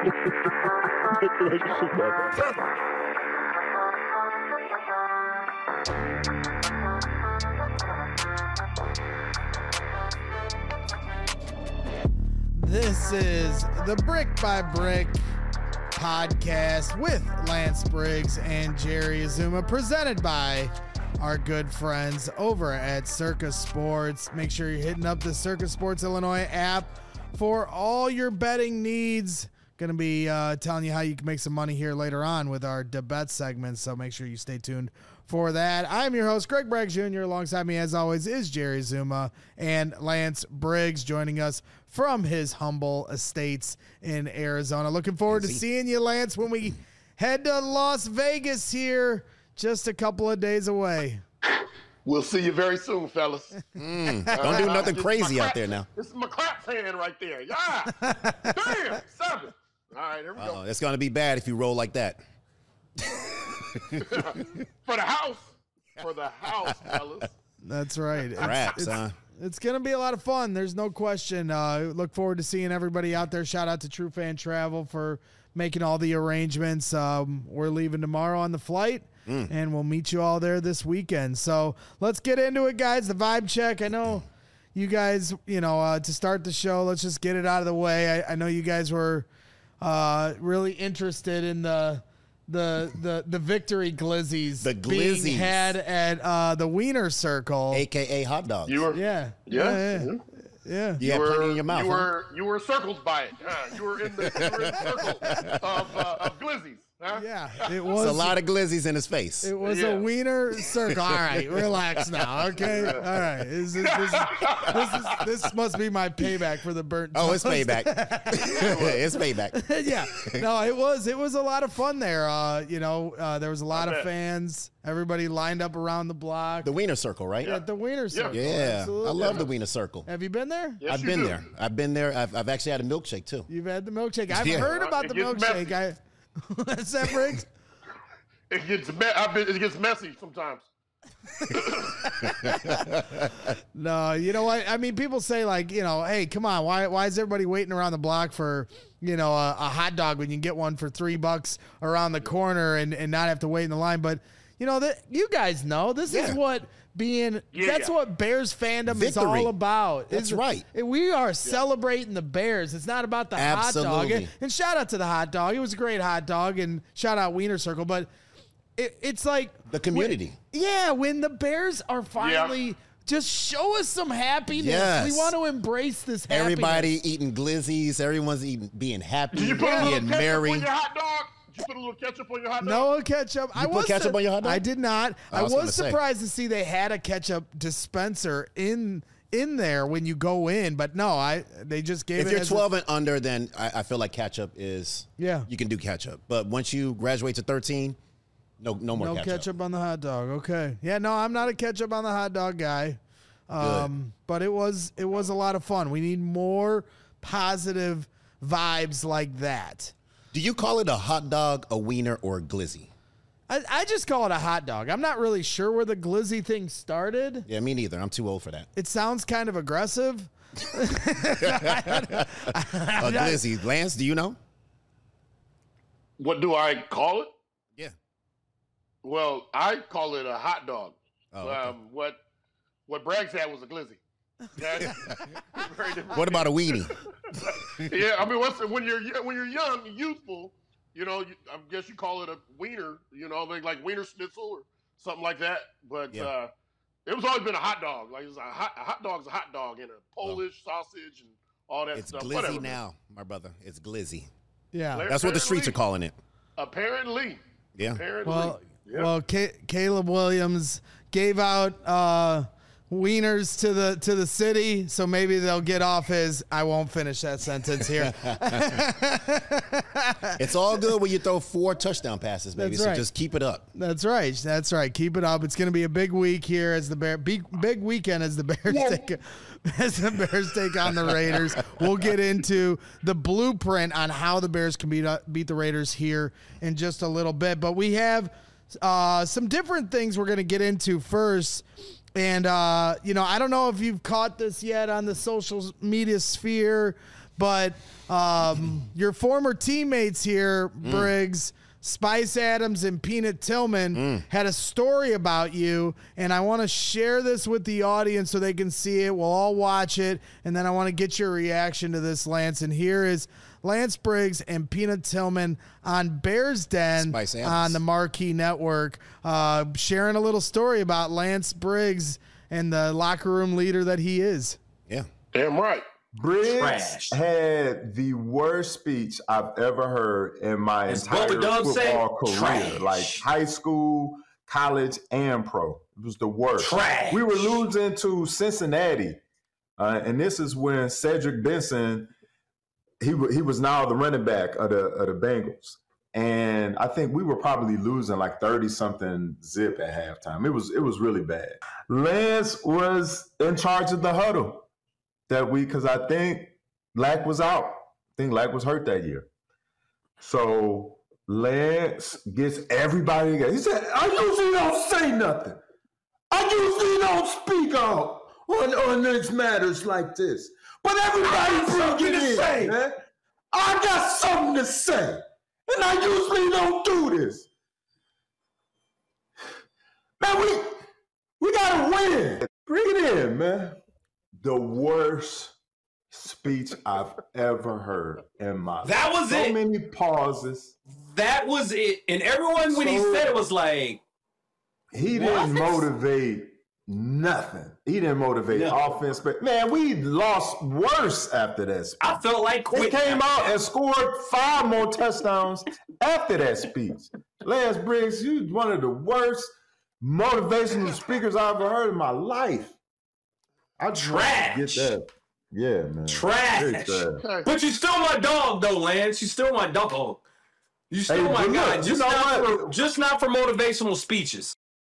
This is the Brick by Brick podcast with Lance Briggs and Jerry Azuma, presented by our good friends over at Circus Sports. Make sure you're hitting up the Circus Sports Illinois app for all your betting needs. Going to be telling you how you can make some money here later on with our debate segment, so make sure you stay tuned for that. I'm your host, Greg Bragg Jr. Alongside me, as always, is Jerry Zuma and Lance Briggs, joining us from his humble estates in Arizona. Looking forward to seeing you, Lance, when we head to Las Vegas here, just a couple of days away. We'll see you very soon, fellas. Don't do nothing crazy out there now. This is my clap hand right there. Yeah. Damn, 7. All right, here we go. It's going to be bad if you roll like that. For the house. For the house, fellas. That's right. Raps, It's going to be a lot of fun. There's no question. Look forward to seeing everybody out there. Shout out to True Fan Travel for making all the arrangements. We're leaving tomorrow on the flight, and we'll meet you all there this weekend. So let's get into it, guys. The vibe check. I know you guys, to start the show, let's just get it out of the way. I know you guys were really interested in the victory glizzies, being had at the Wiener Circle, aka hot dogs. You were, yeah. You had plenty in your mouth. You were circled by it. You were in the circle of glizzies. Huh? Yeah, it was a lot of glizzies in his face. It was a Wiener Circle. All right, relax now. Okay, all right. This must be my payback for the burnt toast. Oh, it's payback. It's payback. Yeah, no, it was a lot of fun there. There was a lot of fans. Everybody lined up around the block. The Wiener Circle, right? Yeah, the Wiener Circle. Yeah, absolutely. I love the Wiener Circle. Have you been there? Yes, I've been there. I've actually had a milkshake too. You've had the milkshake. I've heard about the milkshake. What's that, Briggs? It gets messy sometimes. No, you know what? I mean, people say hey, come on, why is everybody waiting around the block for, a hot dog when you can get one for $3 around the corner and not have to wait in the line? But you guys know this is what that's what Bears fandom is all about. That's right. We are celebrating the Bears. It's not about the hot dog. And shout out to the hot dog. It was a great hot dog, and shout out Wiener Circle. But it's like the community. When the Bears are finally just show us some happiness. Yes. We want to embrace this happiness. Everybody eating glizzies. Everyone's being happy, being merry. On your hot dog? Did you put a little ketchup on your hot dog? No ketchup. You put ketchup on your hot dog? I did not. I was surprised to see they had a ketchup dispenser in there when you go in, but no, they just gave it. If you're 12 and under, then I feel like ketchup is you can do ketchup. But once you graduate to 13, no more ketchup. No ketchup on the hot dog. Okay. Yeah, no, I'm not a ketchup on the hot dog guy. But it was a lot of fun. We need more positive vibes like that. Do you call it a hot dog, a wiener, or a glizzy? I just call it a hot dog. I'm not really sure where the glizzy thing started. Yeah, me neither. I'm too old for that. It sounds kind of aggressive. A glizzy. Lance, do you know? What do I call it? Yeah. Well, I call it a hot dog. Oh, okay. What Braggs had was a glizzy. What about a weenie? Yeah, I mean, when you're young, youthful, I guess you call it a wiener, like wiener schnitzel or something like that. But it was always been a hot dog. Like a hot dog's a hot dog and a Polish sausage and all that stuff. It's glizzy now, my brother. It's glizzy. Yeah, that's what the streets are calling it. Apparently. Yeah. Well, Caleb Williams gave out wieners to the city, so maybe they'll get off his. I won't finish that sentence here. It's all good when you throw 4 touchdown passes, baby. That's right. So just keep it up. That's right. Keep it up. It's going to be a big week here as the big weekend as the Bears take on the Raiders. We'll get into the blueprint on how the Bears can beat the Raiders here in just a little bit, but we have some different things we're going to get into first. And, I don't know if you've caught this yet on the social media sphere, but your former teammates here, Briggs, Spice Adams and Peanut Tillman, had a story about you, and I want to share this with the audience so they can see it. We'll all watch it, and then I want to get your reaction to this, Lance. And here is Lance Briggs and Peanut Tillman on Bears Den on the Marquee Network, sharing a little story about Lance Briggs and the locker room leader that he is. Yeah. Damn right. Briggs had the worst speech I've ever heard in my entire football career, Trash. Like high school, college, and pro. It was the worst. Trash. We were losing to Cincinnati, and this is when Cedric Benson, he was now the running back of the Bengals. And I think we were probably losing like 30-something zip at halftime. It was really bad. Lance was in charge of the huddle that week because I think Lack was out. I think Lack was hurt that year. So Lance gets everybody together. He said, I usually don't say nothing. I usually don't speak out on these matters like this. But everybody bring it in, man. I got something to say. And I usually don't do this. Man, we gotta win. Bring it in, man. The worst speech I've ever heard in my life. That was it. So many pauses. That was it. And everyone, when he said it, was like, he didn't motivate nothing. He didn't motivate offense. But man, we lost worse after that speech. I felt like he came out and scored 5 more touchdowns after that speech. Lance Briggs, you one of the worst motivational speakers I've ever heard in my life. I Trash. Get that. Yeah, man. Trash. But you're still my dog, though, Lance. You're still my dog. You're still my guy. Just not for motivational speeches.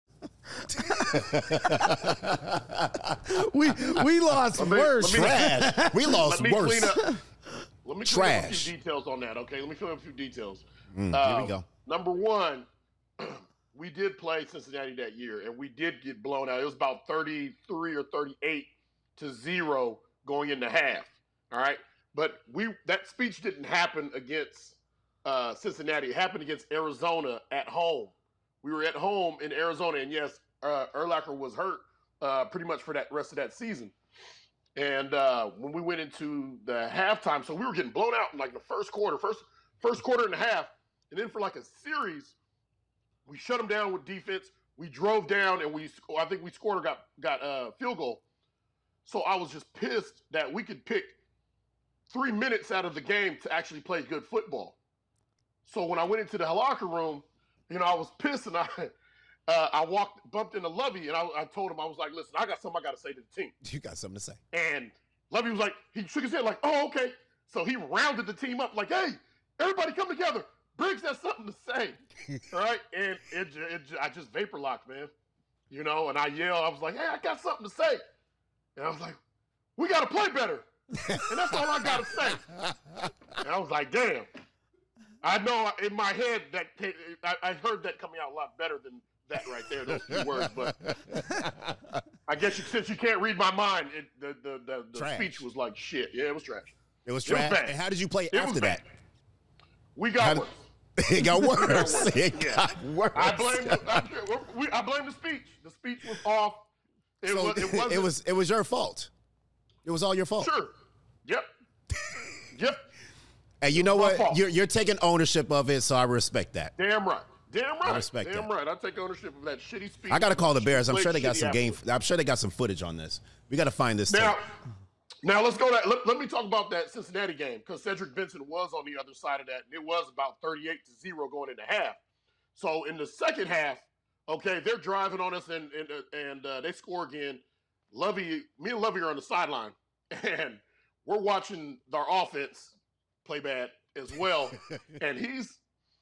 we lost worse. Trash. We lost worse. Let me clean up a few details on that, okay? Let me fill in a few details. Here we go. Number one, we did play Cincinnati that year, and we did get blown out. It was about 33 or 38-0 going into half, all right? But that speech didn't happen against Cincinnati. It happened against Arizona at home. We were at home in Arizona, and yes, Urlacher was hurt pretty much for that rest of that season. And when we went into the halftime, so we were getting blown out in like the first quarter and a half, and then for like a series, we shut them down with defense. We drove down, and I think we scored or got a field goal. So I was just pissed that we could pick 3 minutes out of the game to actually play good football. So when I went into the locker room, I was pissed, and I bumped into Lovey, and I told him, I was like, listen, I got something I got to say to the team. You got something to say. And Lovey was like, he shook his head like, oh, okay. So he rounded the team up like, hey, everybody come together. Briggs has something to say. All right? And I just vapor locked, man. And I yelled. I was like, hey, I got something to say. And I was like, we got to play better. And that's all I got to say. And I was like, damn. I know in my head that I heard that coming out a lot better than that right there, those few words. But I guess since you can't read my mind, the speech was like shit. Yeah, it was trash. It was trash. And how did you play after that? We got worse. It got worse. It got worse. I blame the speech. The speech was off. It was your fault. It was all your fault. Sure. Yep. And you know what? You're taking ownership of it, so I respect that. Damn right. I respect that. Damn right. I take ownership of that shitty speech. I got to call the Bears. I'm sure they got some I'm sure they got some footage on this. We got to find this. Now let's go. Let me talk about that Cincinnati game because Cedric Benson was on the other side of that, and it was about 38-0 going into half. So in the second half, okay, they're driving on us, and they score again. Me and Lovey are on the sideline, and we're watching our offense play bad as well. And he's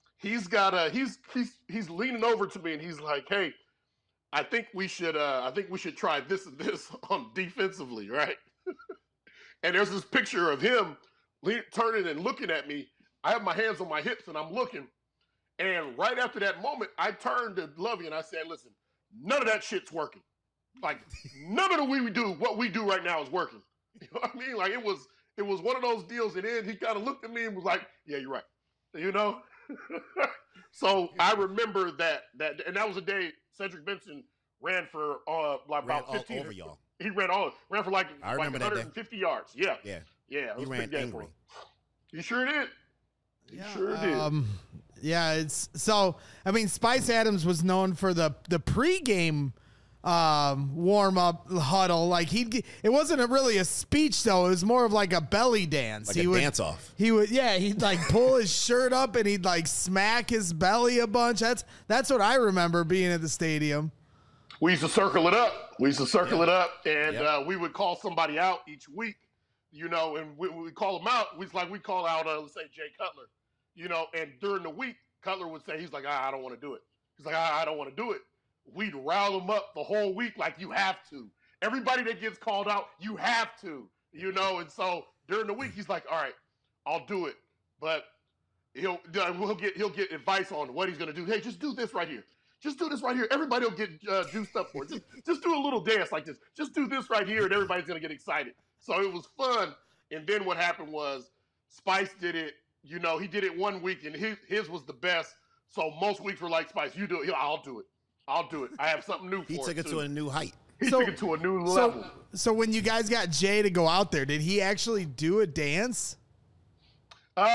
leaning over to me, and he's like, "Hey, I think we should try this and this on defensively, right?" And there's this picture of him turning and looking at me. I have my hands on my hips, and I'm looking. And right after that moment, I turned to Lovey, and I said, listen, none of that shit's working. Like, none of what we do right now is working. You know what I mean? Like, it was one of those deals. And then he kind of looked at me and was like, "Yeah, you're right." You know. So I remember that, and that was a day Cedric Benson ran for like about 15 over y'all. He ran for like 150 yards. Yeah. It was he ran angry. You sure did. You sure did. Yeah, it's so. I mean, Spice Adams was known for the pregame warm up huddle. Like it wasn't really a speech though. It was more of like a belly dance. Like he would dance off. He'd like pull his shirt up and he'd like smack his belly a bunch. That's what I remember being at the stadium. We used to circle it up. And we would call somebody out each week, you know, and we call them out. We call out, let's say, Jay Cutler, you know, and during the week, Cutler would say, he's like, I don't want to do it. He's like, I don't want to do it. We'd rile them up the whole week like, you have to. Everybody that gets called out, you have to, you know. And so during the week, he's like, all right, I'll do it. But he'll get advice on what he's going to do. Hey, just do this right here. Just do this right here. Everybody will get juiced up for it. Just do a little dance like this. Just do this right here, and everybody's going to get excited. So it was fun. And then what happened was Spice did it. You know, he did it one week, and his was the best. So most weeks were like, Spice, you do it. I'll do it. I have something new for it. He took it to a new height. He took it to a new level. So when you guys got Jay to go out there, did he actually do a dance? So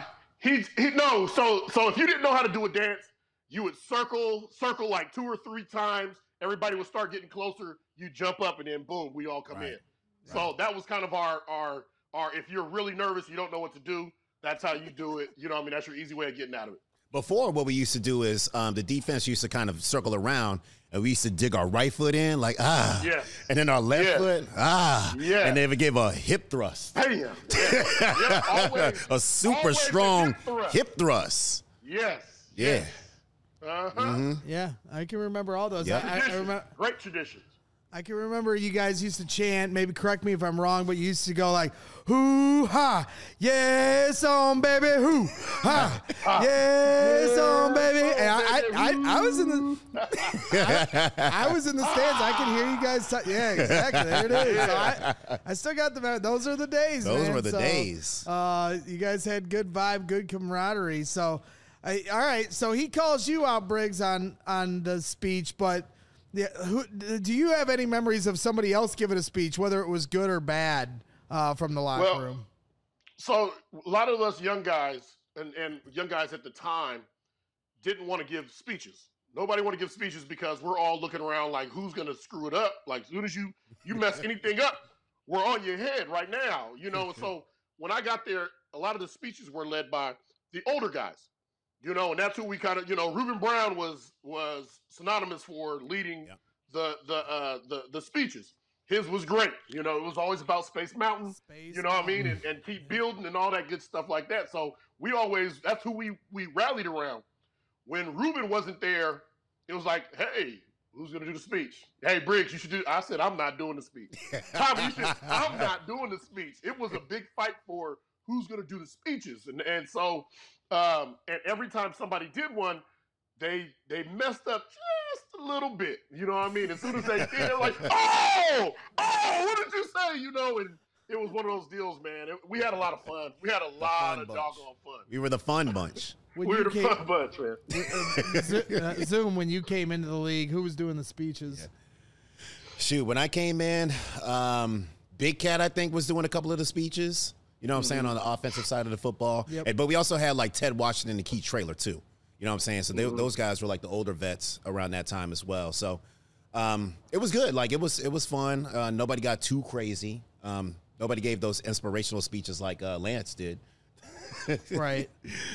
if you didn't know how to do a dance, you would circle like 2 or 3 times. Everybody would start getting closer. You jump up, and then boom, we all come in. Right. So that was kind of our. If you're really nervous, you don't know what to do. That's how you do it. You know what I mean? That's your easy way of getting out of it. Before, what we used to do is the defense used to kind of circle around, and we used to dig our right foot in, like, and then our left foot, and they would give a hip thrust. Bam. Always, a super strong hip thrust. Yes. Yeah. Yeah, I can remember all those. Yep. I remember great traditions. I can remember you guys used to chant, maybe correct me if I'm wrong, but you used to go like, hoo-ha, yes, on baby, hoo-ha, yes, on baby. And I was in the I was in the stands. I can hear you guys. Yeah, exactly. There it is. So I still got the, those are the days, Those were the days. You guys had good vibe, good camaraderie. So, all right. So he calls you out, Briggs, on the speech, but yeah, do you have any memories of somebody else giving a speech, whether it was good or bad, from the locker room? So a lot of us young guys and young guys at the time didn't want to give speeches. Nobody wanted to give speeches because we're all looking around like, who's going to screw it up? Like, as soon as you mess anything up, we're on your head right now, you know? So when I got there, a lot of the speeches were led by the older guys. You know, and that's who we kind of, you know, Reuben Brown was synonymous for leading the speeches. His was great. You know, it was always about Space Mountain, you know what I mean? And keep building and all that good stuff like that. So that's who we rallied around. When Reuben wasn't there, it was like, hey, who's going to do the speech? Hey, Briggs, you should do. I said, I'm not doing the speech. Tommy, I'm not doing the speech. It was a big fight for who's going to do the speeches. And so, and every time somebody did one, they messed up just a little bit. You know what I mean? As soon as they did, they're like, oh, what did you say? You know, and it was one of those deals, man. We had a lot of fun. We had a lot of doggone fun. We were the fun bunch. We were the fun bunch, man. Zoom, when you came into the league, who was doing the speeches? Yeah. Shoot, when I came in, Big Cat, I think, was doing a couple of the speeches. You know what I'm saying, on the offensive side of the football. Yep. But we also had, like, Ted Washington and Keith Traylor, too. You know what I'm saying? So those guys were, like, the older vets around that time as well. So it was good. Like, it was fun. Nobody got too crazy. Nobody gave those inspirational speeches like Lance did. Right.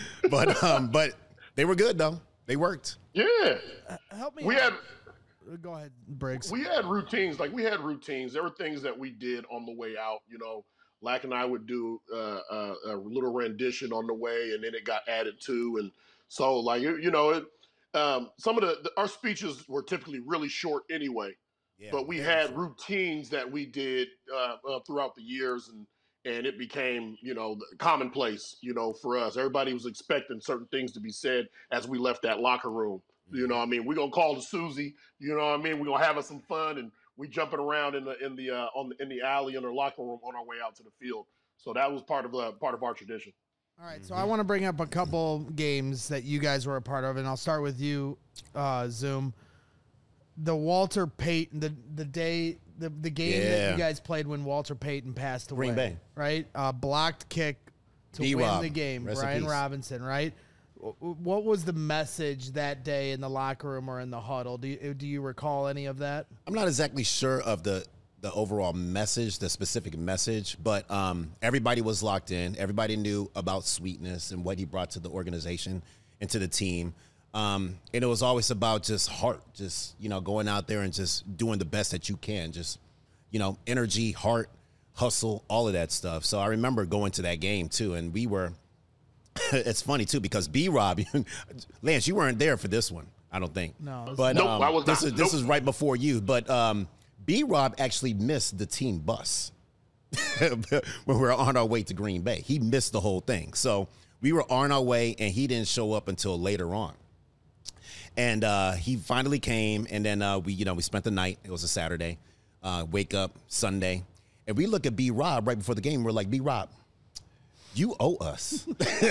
But they were good, though. They worked. Yeah. Help me. Go ahead, Briggs. We had routines. Like, we had routines. There were things that we did on the way out. You know, Lack and I would do a little rendition on the way, and then it got added to. And so, like, you know, some of our speeches were typically really short anyway. Yeah, but we had routines that we did throughout the years, and it became, you know, commonplace, you know, for us. Everybody was expecting certain things to be said as we left that locker room. You know what I mean? We're gonna call to Susie. You know what I mean? We're gonna have us some fun, and we jumping around in the alley in the locker room on our way out to the field. So that was part of our tradition. All right, so I want to bring up a couple games that you guys were a part of, and I'll start with you, Zoom. The Walter Payton, the game that you guys played when Walter Payton passed away. Green Bay. Right? Blocked kick to win the game. Brian Robinson, right? What was the message that day in the locker room or in the huddle? Do you recall any of that? I'm not exactly sure of the overall message, the specific message, but everybody was locked in. Everybody knew about Sweetness and what he brought to the organization and to the team. And it was always about just heart, just, going out there and just doing the best that you can. Just, energy, heart, hustle, all of that stuff. So I remember going to that game too. And we were, it's funny too, because B-Rob, Lance, you weren't there for this one, I don't think. No. But nope, I was not. This is right before you. But B-Rob actually missed the team bus when we were on our way to Green Bay. He missed the whole thing. So we were on our way, and he didn't show up until later on. And he finally came, and then we spent the night. It was a Saturday. Wake up Sunday, and we look at B-Rob right before the game. We're like, B-Rob, you owe us.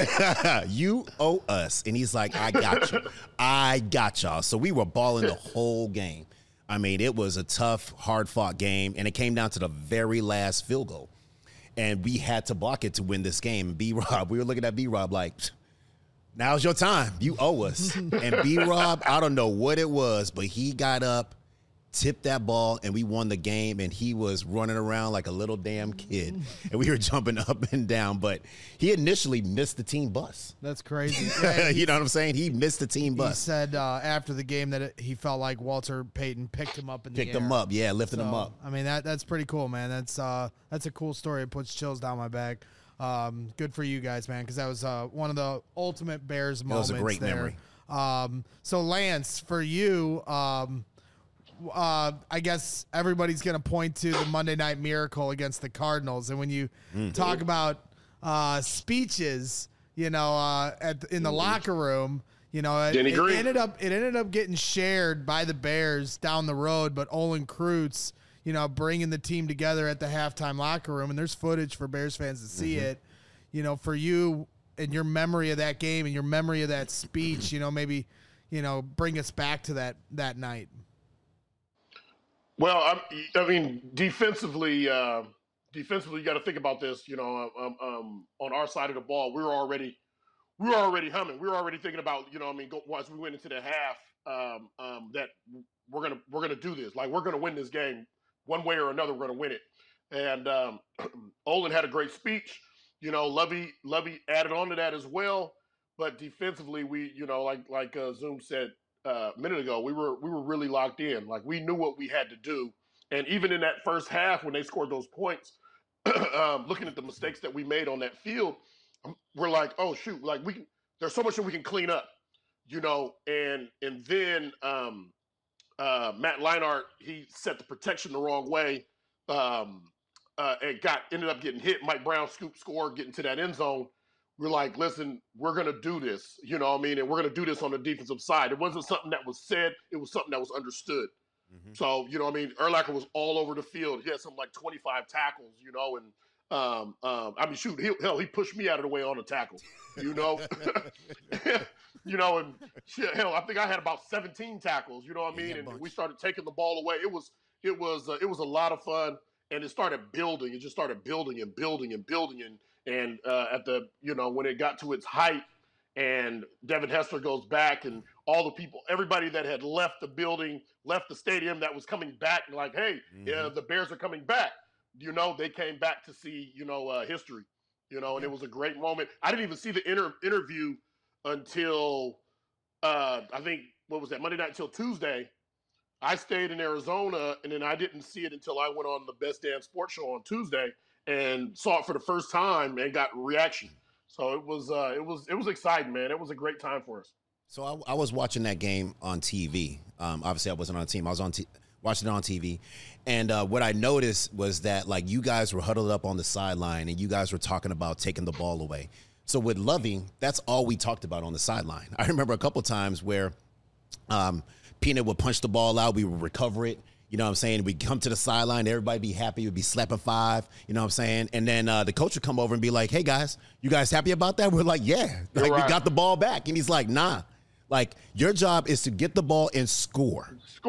You owe us. And he's like, I got you. I got y'all. So we were balling the whole game. I mean, it was a tough, hard-fought game, and it came down to the very last field goal. And we had to block it to win this game. B-Rob, we were looking at B-Rob like, now's your time. You owe us. And B-Rob, I don't know what it was, but he got up, tipped that ball, and we won the game, and he was running around like a little damn kid. And we were jumping up and down, but he initially missed the team bus. That's crazy. Yeah, you know what I'm saying? He missed the team bus. He said after the game that he felt like Walter Payton picked him up in the air. Picked him up, yeah, lifted him up. I mean, that's pretty cool, man. That's a cool story. It puts chills down my back. Good for you guys, man, because that was one of the ultimate Bears moments. It was a great memory. So, Lance, for you, I guess everybody's going to point to the Monday Night Miracle against the Cardinals. And when you talk about speeches, in the locker room, it ended up getting shared by the Bears down the road. But Olin Kreutz, bringing the team together at the halftime locker room, and there's footage for Bears fans to see it. For you and your memory of that game and your memory of that speech, maybe bring us back to that night. Well, I mean, defensively, you got to think about this. On our side of the ball, we were already humming. We were already thinking about, once we went into the half, that we're gonna do this. Like, we're gonna win this game one way or another. We're gonna win it. And Olin had a great speech. Lovey added on to that as well. But defensively, we, like Zoom said a minute ago, we were really locked in. Like, we knew what we had to do. And even in that first half, when they scored those points, looking at the mistakes that we made on that field, we're like, oh shoot, like there's so much that we can clean up, and then Matt Leinart, he set the protection the wrong way, and ended up getting hit. Mike Brown score, getting to that end zone. We're like, listen, we're going to do this, and we're going to do this on the defensive side. It wasn't something that was said. It was something that was understood. Mm-hmm. So, Urlacher was all over the field. He had something like 25 tackles, and shoot, he pushed me out of the way on a tackle, and hell, I think I had about 17 tackles, and we started taking the ball away. It was a lot of fun, and it started building. It just started building and building and building, and at the, when it got to its height, and Devin Hester goes back, and all the people, everybody that had left the building, left the stadium, that was coming back, and like, hey, the Bears are coming back. They came back to see, history, and it was a great moment. I didn't even see the interview until, I think, what was that, Monday night until Tuesday. I stayed in Arizona, and then I didn't see it until I went on the Best Damn Sports Show on Tuesday and saw it for the first time and got reaction. So it was exciting, man. It was a great time for us. So I was watching that game on TV. Obviously, I wasn't on the team. I was watching it on TV. And what I noticed was that, like, you guys were huddled up on the sideline, and you guys were talking about taking the ball away. So with Lovey, that's all we talked about on the sideline. I remember a couple times where Peanut would punch the ball out. We would recover it. You know what I'm saying? We'd come to the sideline, everybody be happy, we'd be slapping 5, you know what I'm saying? And then the coach would come over and be like, hey, guys, you guys happy about that? We're like, yeah. Like, we got the ball back. And he's like, nah. Like, your job is to get the ball and score.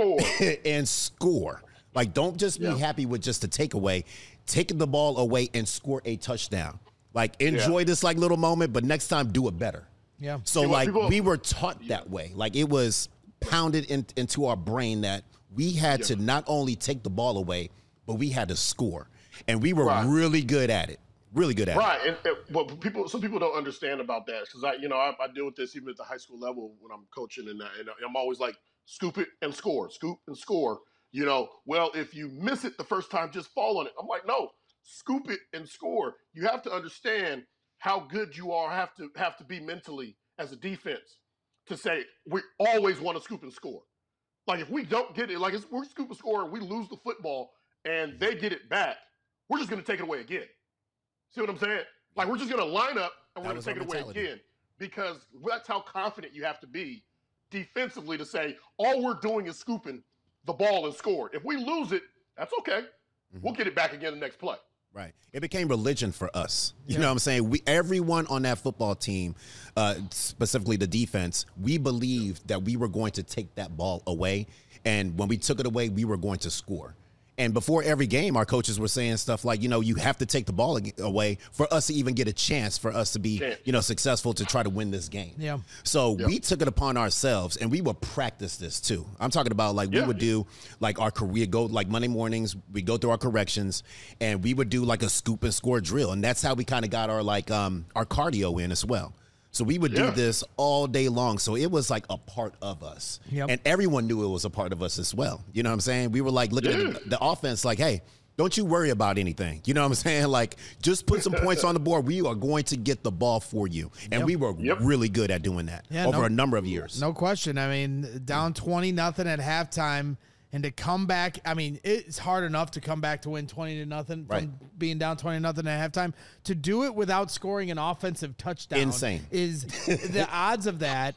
And score. Like, don't just be happy with just a takeaway. Take the ball away and score a touchdown. Like, enjoy this, like, little moment, but next time do it better. Yeah. So, we were taught that way. Like, it was pounded into our brain that we had to not only take the ball away, but we had to score. And we were really good at it. Really good at it. Right. And but some people don't understand about that because I deal with this even at the high school level when I'm coaching and I'm always like, scoop it and score, scoop and score. You know, well, if you miss it the first time, just fall on it. I'm like, no, scoop it and score. You have to understand how good you are, have to be mentally as a defense to say we always want to scoop and score. Like, if we don't get it, like, we're scoop and score and we lose the football and they get it back, we're just going to take it away again. See what I'm saying? Like, we're just going to line up and we're going to take it away again because that's how confident you have to be defensively to say, all we're doing is scooping the ball and score. If we lose it, that's okay. We'll get it back again the next play. Right. It became religion for us. You know what I'm saying? Everyone on that football team, specifically the defense, we believed that we were going to take that ball away. And when we took it away, we were going to score. And before every game, our coaches were saying stuff like, you know, you have to take the ball away for us to even get a chance for us to be, you know, successful to try to win this game. Yeah. So we took it upon ourselves and we would practice this too. I'm talking about like we would do like our career go like Monday mornings, we go through our corrections and we would do like a scoop and score drill. And that's how we kind of got our like our cardio in as well. So we would do this all day long. So it was like a part of us. And everyone knew it was a part of us as well. You know what I'm saying? We were like looking at the offense like, hey, don't you worry about anything. You know what I'm saying? Like, just put some points on the board. We are going to get the ball for you. And we were really good at doing that over a number of years. No question. I mean, down 20-0 at halftime. And to come back, I mean, it's hard enough to come back to win 20-0 from being down 20-0 at halftime. To do it without scoring an offensive touchdown, insane. Is the odds of that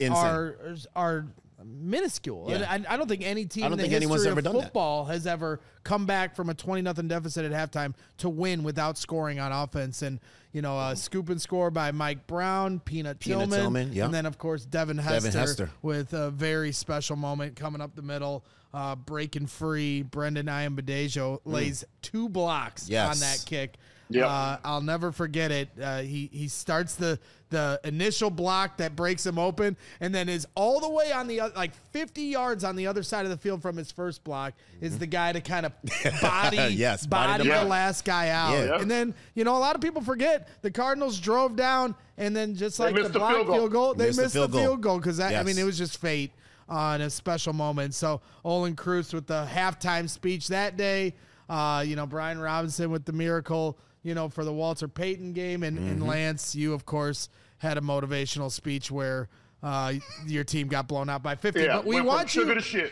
are minuscule. Yeah. And I don't think any team in the history of football has ever come back from a 20-0 deficit at halftime to win without scoring on offense. And you know, scoop and score by Mike Brown, Peanut Tillman, and then of course Devin Hester with a very special moment coming up the middle. Breaking free, Brendan Iambadejo lays 2 blocks on that kick. I'll never forget it. He starts the initial block that breaks him open, and then is all the way on the like 50 yards on the other side of the field from his first block is the guy to kind of body the last guy out. And then, you know, a lot of people forget the Cardinals drove down, and then just like the block field goal, they missed the field goal because I mean, it was just fate on a special moment. So Olin Kreutz with the halftime speech that day, you know, Brian Robinson with the miracle, you know, for the Walter Payton game. And Lance, you, of course, had a motivational speech where your team got blown out by 50. But we want you to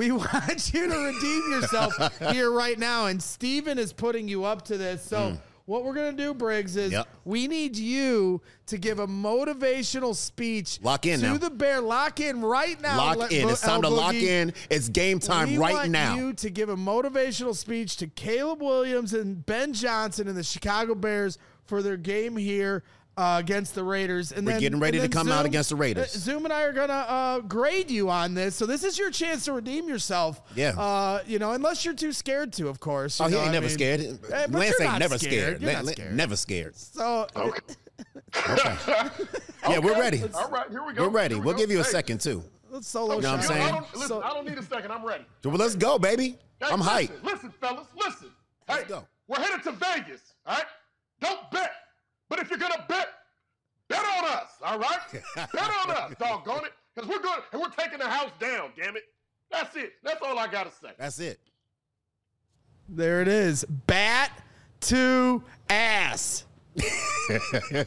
redeem yourself here right now. And Steven is putting you up to this. So what we're going to do, Briggs, is we need you to give a motivational speech to the Bear. Lock in right now. Lock in. It's time to lock in. It's game time right now. We want you to give a motivational speech to Caleb Williams and Ben Johnson and the Chicago Bears for their game here against the Raiders. And we're getting ready to come out against the Raiders. Zoom and I are going to grade you on this. So this is your chance to redeem yourself. Yeah. You know, unless you're too scared to, of course. Oh, he ain't never scared. Lance ain't never scared. Never scared. So, yeah, we're ready. All right, here we go. We're ready. We'll give you a second, too. Let's solo you know what I'm saying? I don't need a second. I'm ready. Well, let's go, baby. I'm hyped. Listen, fellas, listen. Let's go. We're headed to Vegas, all right? Don't bet. But if you're going to bet on us, all right? Bet on us, doggone it. Because we're good, and we're taking the house down, damn it. That's it. That's all I got to say. That's it. There it is. Bat to ass. Yeah.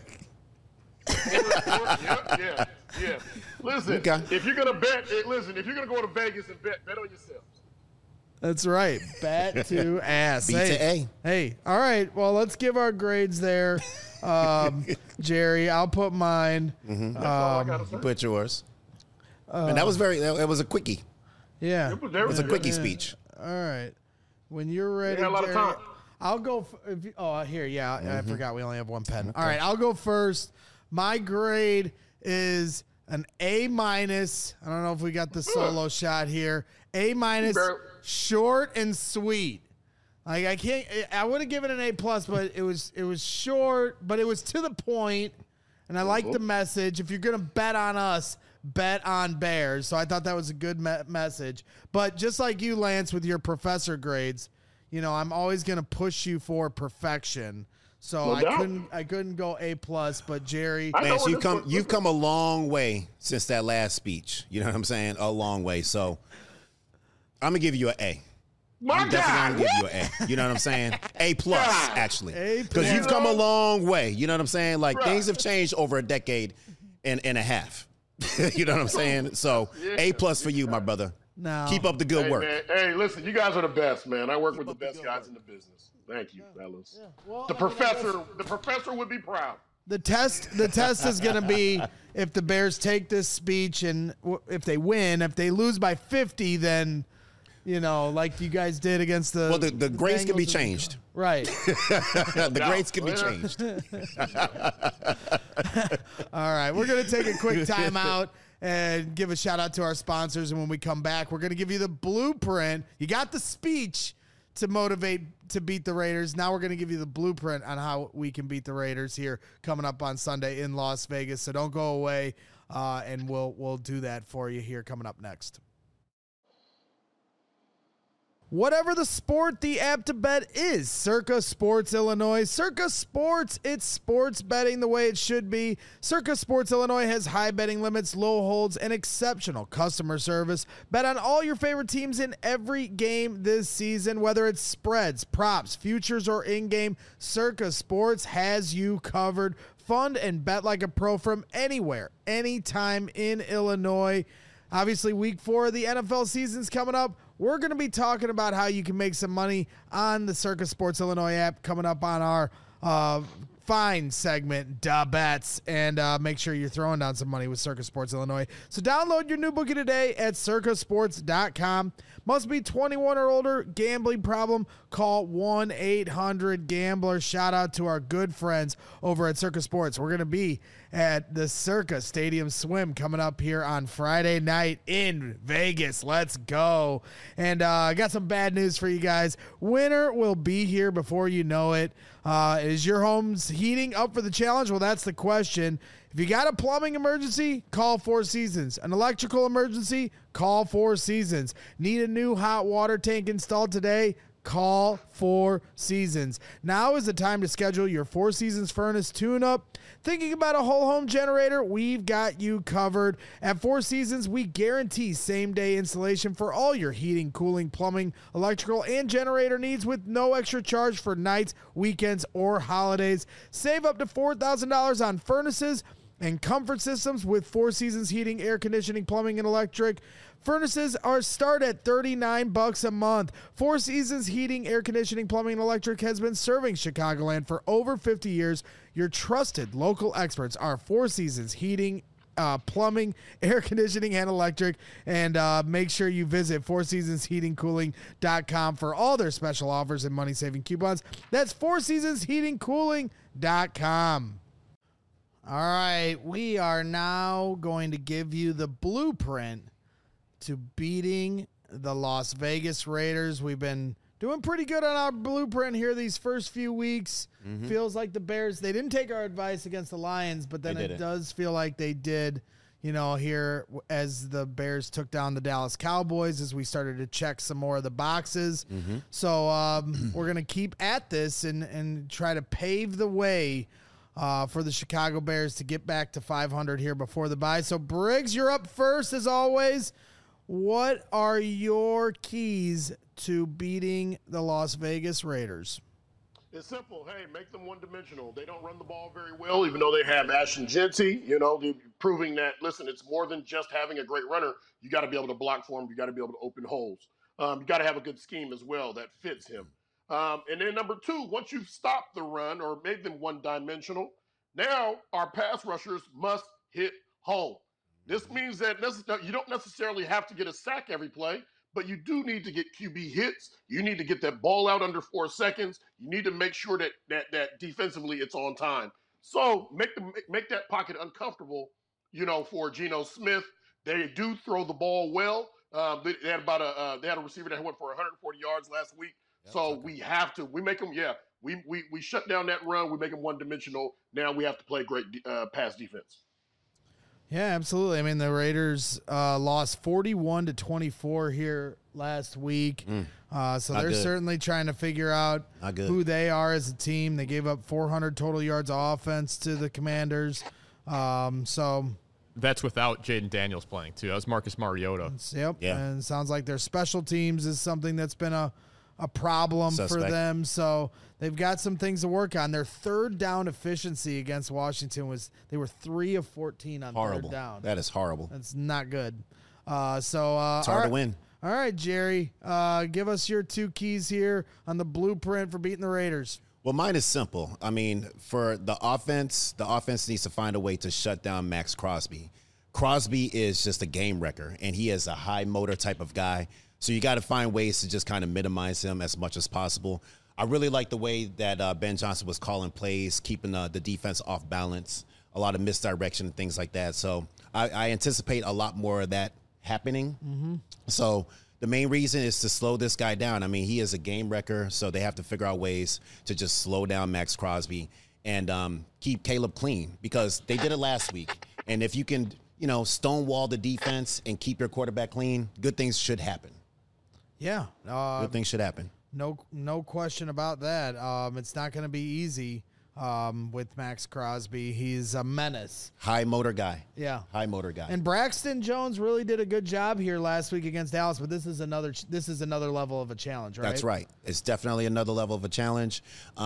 Listen, if you're gonna bet, if you're gonna go to Vegas and bet on yourselves. That's right. Bat to ass. B to A. Hey, all right. Well, let's give our grades there. Jerry, I'll put mine. That's all I gotta say. You put yours. And that was a quickie. Yeah. It was a quickie speech. right. When you're ready, a lot of time. I'll go. Here. Yeah, I forgot we only have one pen. Okay. All right, I'll go first. My grade is an A-. I don't know if we got the solo shot here. A-, short and sweet. Like I would have given it an A+, but it was short, but it was to the point, and I like the message. If you're gonna bet on us, bet on Bears. So I thought that was a good message. But just like you, Lance, with your professor grades, you know, I'm always gonna push you for perfection. So I couldn't go A+, but Jerry, Lance, you've come a long way since that last speech. You know what I'm saying? A long way. So I'm gonna give you an A. I'm definitely gonna give you an A. You know what I'm saying? A+, actually, because you've come a long way. You know what I'm saying? Like things have changed over a decade and a half. You know what I'm saying? So A+ for you, my brother. No. Keep up the good work. Man. Hey, listen, you guys are the best, man. I work with the best guys in the business. Thank you, fellas. Yeah. Well, the professor would be proud. The test is going to be if the Bears take this speech and if they win. If they lose by 50, then, you know, like you guys did against the. Well, the grades can be changed. Right. The grades can be changed. All right, we're going to take a quick timeout and give a shout out to our sponsors. And when we come back, we're going to give you the blueprint. You got the speech to motivate to beat the Raiders. Now we're going to give you the blueprint on how we can beat the Raiders here coming up on Sunday in Las Vegas. So don't go away, and we'll do that for you here coming up next. Whatever the sport, the app to bet is Circa Sports Illinois. Circa Sports, it's sports betting the way it should be. Circa Sports Illinois has high betting limits, low holds, and exceptional customer service. Bet on all your favorite teams in every game this season, whether it's spreads, props, futures, or in-game. Circa Sports has you covered. Fund and bet like a pro from anywhere, anytime in Illinois. Obviously, week 4 of the NFL season's coming up. We're going to be talking about how you can make some money on the Circa Sports Illinois app coming up on our fine segment, Da Bets, and make sure you're throwing down some money with Circa Sports Illinois. So download your new bookie today at circasports.com. Must be 21 or older. Gambling problem? Call 1-800-GAMBLER. Shout out to our good friends over at Circa Sports. We're going to be at the Circa Stadium Swim coming up here on Friday night in Vegas. Let's go. And I got some bad news for you guys. Winter will be here before you know it. Is your home's heating up for the challenge? Well, that's the question. If you got a plumbing emergency, call Four Seasons. An electrical emergency, call Four Seasons. Need a new hot water tank installed today? Call Four Seasons. Now is the time to schedule your Four Seasons furnace tune-up. Thinking about a whole home generator? We've got you covered. At Four Seasons, we guarantee same-day installation for all your heating, cooling, plumbing, electrical, and generator needs with no extra charge for nights, weekends, or holidays. Save up to $4,000 on furnaces and comfort systems with Four Seasons heating, air conditioning, plumbing, and electric. Furnaces start at $39 a month. Four Seasons heating, air conditioning, plumbing, and electric has been serving Chicagoland for over 50 years. Your trusted local experts are Four Seasons heating, plumbing, air conditioning, and electric. And make sure you visit fourseasonsheatingcooling.com for all their special offers and money-saving coupons. That's fourseasonsheatingcooling.com. All right, we are now going to give you the blueprint to beating the Las Vegas Raiders. We've been doing pretty good on our blueprint here these first few weeks. Feels like the Bears, they didn't take our advice against the Lions, but then it does feel like they did, you know, here as the Bears took down the Dallas Cowboys, as we started to check some more of the boxes. So we're going to keep at this and try to pave the way for the Chicago Bears to get back to 500 here before the bye. So, Briggs, you're up first as always. What are your keys to beating the Las Vegas Raiders? It's simple. Hey, make them one-dimensional. They don't run the ball very well, even though they have Ashton Jeanty. You know, they're proving that, listen, it's more than just having a great runner. You got to be able to block for him. You got to be able to open holes. You got to have a good scheme as well that fits him. And then number 2, once you've stopped the run or made them one-dimensional, now our pass rushers must hit home. This means that you don't necessarily have to get a sack every play, but you do need to get QB hits. You need to get that ball out under 4 seconds. You need to make sure that defensively it's on time. So make that pocket uncomfortable, for Geno Smith. They do throw the ball well. They had a receiver that went for 140 yards last week. Yep, so we have to. We make them. Yeah, we shut down that run. We make them one-dimensional. Now we have to play great pass defense. Yeah, absolutely. I mean, the Raiders lost 41-24 here last week. So they're certainly trying to figure out who they are as a team. They gave up 400 total yards of offense to the Commanders. So that's without Jaden Daniels playing, too. That was Marcus Mariota. Yep. Yeah. And it sounds like their special teams is something that's been a problem for them. So they've got some things to work on. Their third down efficiency against Washington they were 3 of 14 on third down. That is horrible. That's not good. It's hard to win. All right, Jerry, give us your 2 keys here on the blueprint for beating the Raiders. Well, mine is simple. I mean, for the offense needs to find a way to shut down Max Crosby. Crosby is just a game wrecker, and he is a high motor type of guy. So you got to find ways to just kind of minimize him as much as possible. I really like the way that Ben Johnson was calling plays, keeping the defense off balance, a lot of misdirection and things like that. So I anticipate a lot more of that happening. Mm-hmm. So the main reason is to slow this guy down. I mean, he is a game wrecker, so they have to figure out ways to just slow down Max Crosby and keep Caleb clean, because they did it last week. And if you can, stonewall the defense and keep your quarterback clean, good things should happen. Yeah. Good things should happen. No question about that. It's not going to be easy with Max Crosby. He's a menace. High motor guy. Yeah. High motor guy. And Braxton Jones really did a good job here last week against Dallas, but this is another level of a challenge, right? That's right. It's definitely another level of a challenge.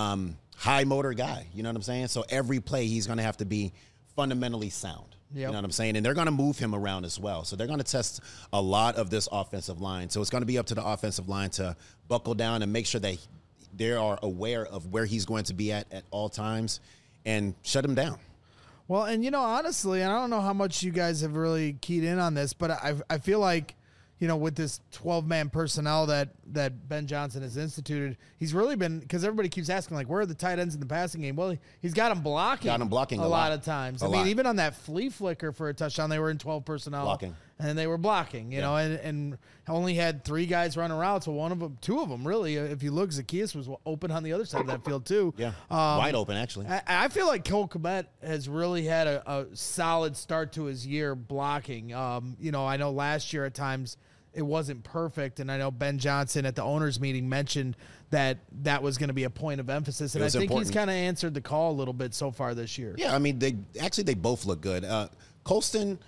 High motor guy. You know what I'm saying? So every play he's going to have to be fundamentally sound. Yep. You know what I'm saying? And they're going to move him around as well. So they're going to test a lot of this offensive line. So it's going to be up to the offensive line to buckle down and make sure that they are aware of where he's going to be at all times and shut him down. Well, and, honestly, and I don't know how much you guys have really keyed in on this, but I feel like, with this 12-man personnel that Ben Johnson has instituted, he's really been, because everybody keeps asking, like, where are the tight ends in the passing game? Well, he's got them blocking. A lot of times. I mean, even on that flea flicker for a touchdown, they were in 12 personnel. Blocking. And they were blocking, you know, and only had 3 guys running around. So 2 of them, really, if you look, Zacchaeus was open on the other side of that field, too. Yeah, wide open, actually. I feel like Cole Kmet has really had a solid start to his year blocking. I know last year at times it wasn't perfect, and I know Ben Johnson at the owners' meeting mentioned that was going to be a point of emphasis, and I think he's kind of answered the call a little bit so far this year. Yeah, I mean, they both look good. Colston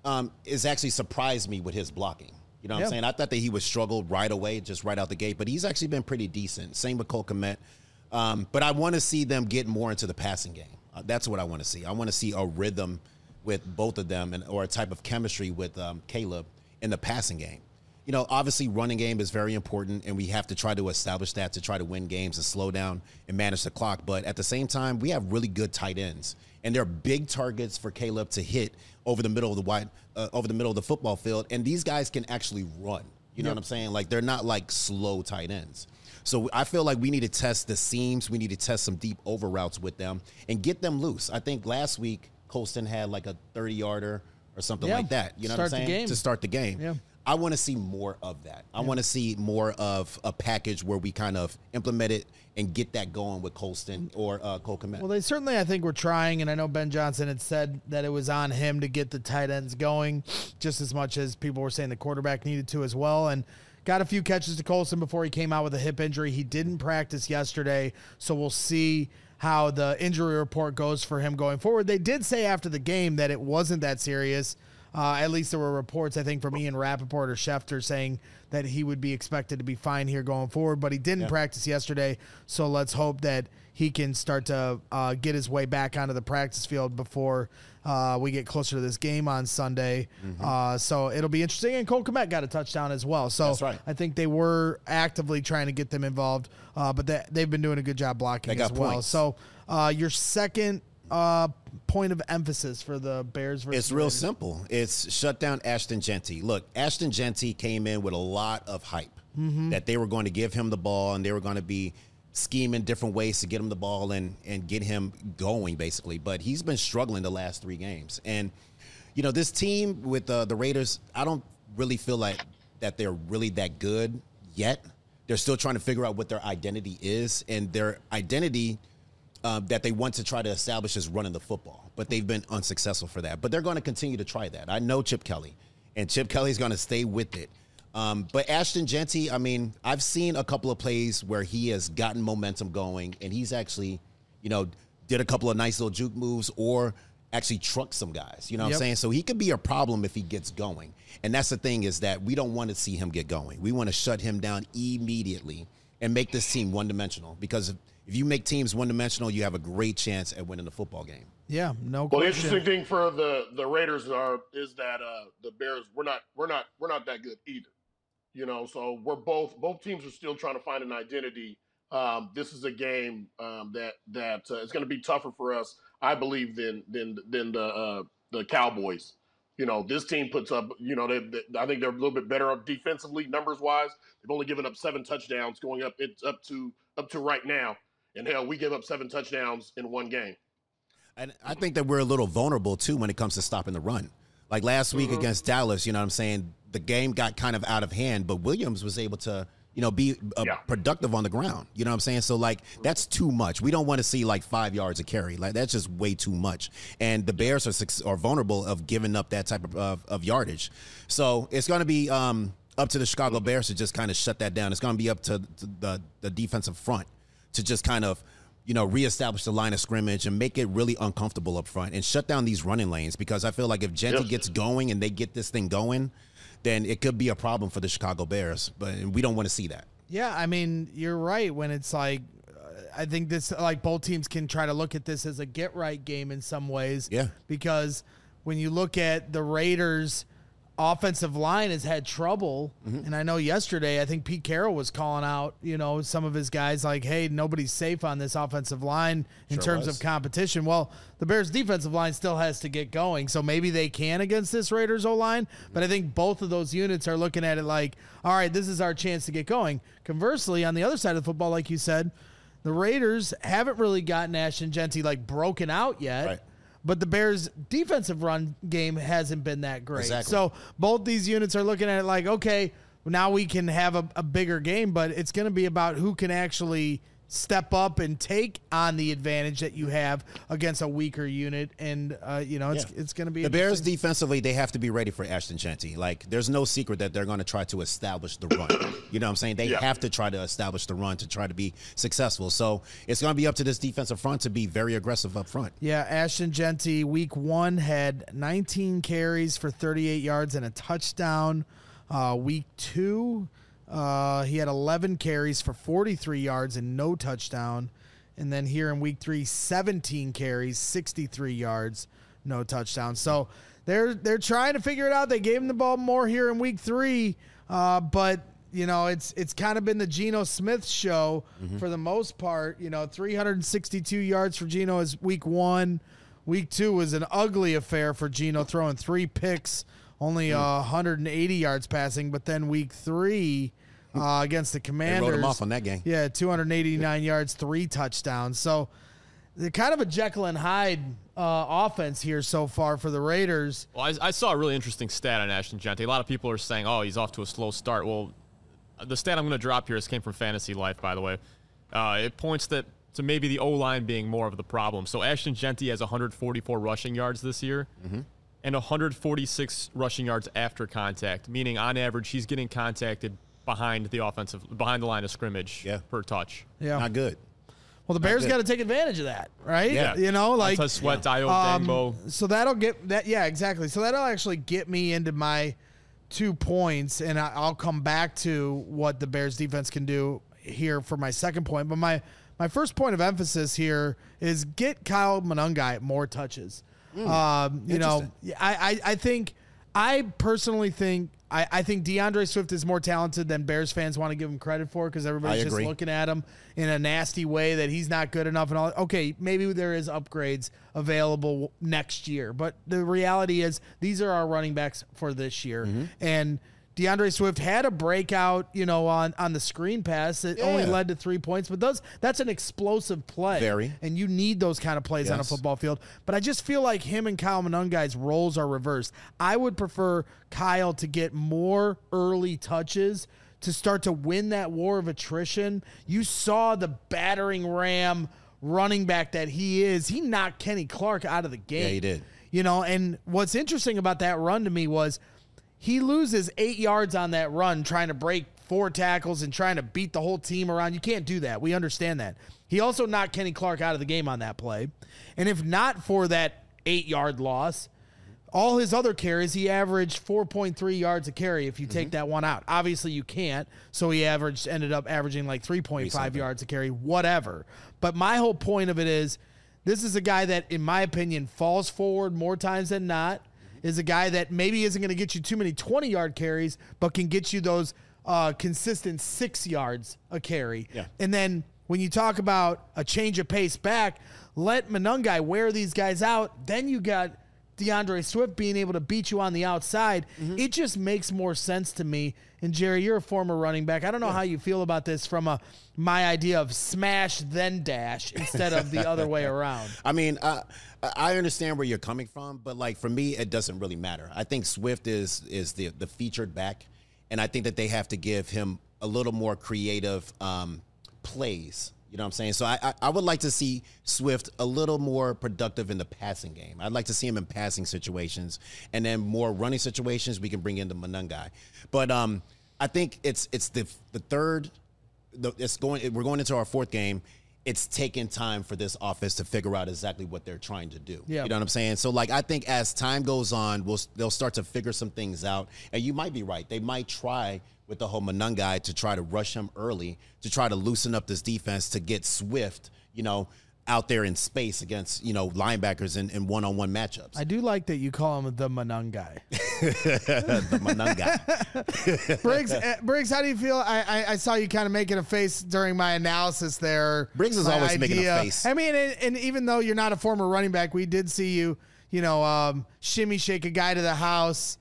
is actually surprised me with his blocking. You know what I'm saying? I thought that he would struggle right away, just right out the gate, but he's actually been pretty decent. Same with Cole Kmet. But I want to see them get more into the passing game. That's what I want to see. I want to see a rhythm with both of them or a type of chemistry with Caleb in the passing game. Obviously running game is very important, and we have to try to establish that to try to win games and slow down and manage the clock. But at the same time, we have really good tight ends, and they're big targets for Caleb to hit over the middle of the football field. And these guys can actually run. You know what I'm saying? Like, they're not like slow tight ends. So I feel like we need to test the seams. We need to test some deep over routes with them and get them loose. I think last week Colston had like a 30-yarder or something like that. You know what I'm saying? To start the game. Yeah. I want to see more of that. I want to see more of a package where we kind of implement it and get that going with Colston or Cole Kmet. Well, they certainly, I think, were trying, and I know Ben Johnson had said that it was on him to get the tight ends going just as much as people were saying the quarterback needed to as well, and got a few catches to Colston before he came out with a hip injury. He didn't practice yesterday, so we'll see how the injury report goes for him going forward. They did say after the game that it wasn't that serious. At least there were reports, I think, from Ian Rappaport or Schefter saying that he would be expected to be fine here going forward, but he didn't practice yesterday, so let's hope that he can start to get his way back onto the practice field before we get closer to this game on Sunday. Mm-hmm. So it'll be interesting, and Cole Kmet got a touchdown as well. So that's right. I think they were actively trying to get them involved, but they've been doing a good job blocking as well. Points. So your second point of emphasis for the Bears versus It's real simple. It's shut down Ashton Jeanty. Look, Ashton Jeanty came in with a lot of hype that they were going to give him the ball and they were going to be scheming different ways to get him the ball and get him going, basically. But he's been struggling the last 3 games. And, this team with the Raiders, I don't really feel like that they're really that good yet. They're still trying to figure out what their identity is. And their identity that they want to try to establish is running the football. But they've been unsuccessful for that. But they're going to continue to try that. I know Chip Kelly. And Chip Kelly's going to stay with it. But Ashton Jeanty, I've seen a couple of plays where he has gotten momentum going, and he's actually, did a couple of nice little juke moves or actually trucked some guys. You know what I'm saying? So he could be a problem if he gets going. And that's the thing is that we don't want to see him get going. We want to shut him down immediately and make this team one-dimensional. Because if you make teams one-dimensional, you have a great chance at winning the football game. Yeah, no question. Well, the interesting thing for the Raiders is that the Bears, we're not that good either. So we're both teams are still trying to find an identity. This is a game that it's going to be tougher for us, I believe, than the Cowboys. This team puts up. I think they're a little bit better up defensively, numbers wise. They've only given up 7 touchdowns going up. It's up to right now, and hell, we gave up 7 touchdowns in 1 game. And I think that we're a little vulnerable too when it comes to stopping the run. Like last week against Dallas, the game got kind of out of hand, but Williams was able to, be productive on the ground. You know what I'm saying? So, that's too much. We don't want to see, 5 yards a carry. That's just way too much. And the Bears are vulnerable of giving up that type of yardage. So, it's going to be up to the Chicago Bears to just kind of shut that down. It's going to be up to the defensive front to just kind of, reestablish the line of scrimmage and make it really uncomfortable up front and shut down these running lanes, because I feel like if Jeanty gets going and they get this thing going, then it could be a problem for the Chicago Bears, but we don't want to see that. Yeah, you're right when it's I think this, both teams can try to look at this as a get-right game in some ways. Yeah. Because when you look at the Raiders' offensive line has had trouble, and I know yesterday I think Pete Carroll was calling out, some of his guys hey, nobody's safe on this offensive line in terms of competition. Well, the Bears' defensive line still has to get going, so maybe they can against this Raiders O-line, but I think both of those units are looking at it all right, this is our chance to get going. Conversely, on the other side of the football, like you said, the Raiders haven't really gotten Ashton Jeanty broken out yet. Right. But the Bears' defensive run game hasn't been that great. Exactly. So both these units are looking at it okay, now we can have a bigger game, but it's going to be about who can actually step up and take on the advantage that you have against a weaker unit. And, it's going to be the Bears defensively, they have to be ready for Ashton Jeanty. There's no secret that they're going to try to establish the run. You know what I'm saying? They have to try to establish the run to try to be successful. So it's going to be up to this defensive front to be very aggressive up front. Yeah, Ashton Jeanty, week 1, had 19 carries for 38 yards and a touchdown. Week 2, he had 11 carries for 43 yards and no touchdown. And then here in week 3, 17 carries, 63 yards, no touchdown. So they're trying to figure it out. They gave him the ball more here in week 3, but it's kind of been the Geno Smith show for the most part. 362 yards for Geno is week 1. Week 2 was an ugly affair for Geno, throwing 3 picks, only 180 yards passing. But then week 3 against the Commanders, they wrote him off on that game. Yeah, 289 yards, 3 touchdowns. So they're kind of a Jekyll and Hyde offense here so far for the Raiders. Well, I saw a really interesting stat on Ashton Jeanty. A lot of people are saying, he's off to a slow start. Well, the stat I'm going to drop here came from Fantasy Life, by the way. It points to maybe the O-line being more of the problem. So Ashton Jeanty has 144 rushing yards this year and 146 rushing yards after contact, meaning on average he's getting contacted behind the line of scrimmage per touch. Yeah. Not good. Well, the Bears got to take advantage of that, right? Yeah. Montez Sweat, Dio Dangbo. So that'll get that. Yeah, exactly. So that'll actually get me into my 2 points, and I'll come back to what the Bears defense can do here for my second point. But my first point of emphasis here is get Kyle Monangai more touches. I personally think I think DeAndre Swift is more talented than Bears fans want to give him credit for because everybody's just looking at him in a nasty way that he's not good enough and all. Okay, maybe there is upgrades available next year, but the reality is these are our running backs for this year. And DeAndre Swift had a breakout, on the screen pass that only led to 3 points, but that's an explosive play. And you need those kind of plays on a football field. But I just feel like him and Kyle Monungai's roles are reversed. I would prefer Kyle to get more early touches to start to win that war of attrition. You saw the battering ram running back that he is. He knocked Kenny Clark out of the game. Yeah, he did. And what's interesting about that run to me was he loses 8 yards on that run trying to break 4 tackles and trying to beat the whole team around. You can't do that. We understand that. He also knocked Kenny Clark out of the game on that play. And if not for that 8-yard loss, all his other carries, he averaged 4.3 yards a carry if you take that one out. Obviously, you can't, so he ended up averaging like 3.5 yards a carry, whatever. But my whole point of it is this is a guy that, in my opinion, falls forward more times than not, is a guy that maybe isn't going to get you too many 20-yard carries, but can get you those consistent 6 yards a carry. Yeah. And then when you talk about a change of pace back, let Monungai wear these guys out. Then you got DeAndre Swift being able to beat you on the outside. It just makes more sense to me. And Jerry, you're a former running back. I don't know how you feel about this from my idea of smash then dash instead of the other way around. I mean, I understand where you're coming from, but like for me, it doesn't really matter. I think Swift is the featured back, and I think that they have to give him a little more creative plays. You know what I'm saying? So I would like to see Swift a little more productive in the passing game. I'd like to see him in passing situations, and then more running situations we can bring into Monungai. But I think it's the third. We're going into our fourth game. It's taking time for this offense to figure out exactly what they're trying to do. Yeah. You know what I'm saying? So, like, I think as time goes on, they'll start to figure some things out. And you might be right. They might try with the whole Monungai to try to rush him early, to try to loosen up this defense, to get Swift, out there in space against, linebackers in one-on-one matchups. I do like that you call him the Monungai. The Monungai. Briggs, how do you feel? I saw you kind of making a face during my analysis there. Briggs is always making a face. I mean, and even though you're not a former running back, we did see you, shimmy shake a guy to the house,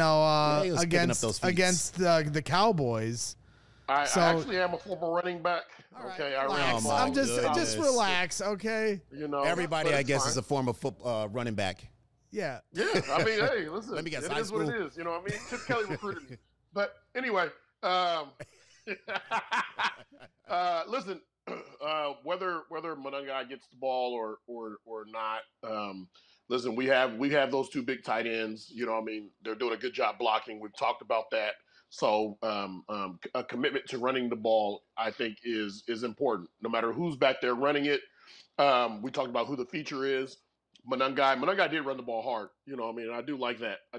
against the Cowboys. I actually am a former running back. Okay, relax. I'm just relax. Okay. Everybody, I guess, is a former running back. Yeah. Yeah. I mean, hey, listen. Let me guess. It is what it is. You know what I mean? Chip Kelly recruited me. But anyway, listen. Whether Monungai gets the ball or not, listen. We have those two big tight ends. You know what I mean? They're doing a good job blocking. We've talked about that. So a commitment to running the ball, I think, is important. No matter who's back there running it. We talked about who the feature is. Monungai did run the ball hard. You know what I mean? I do like that.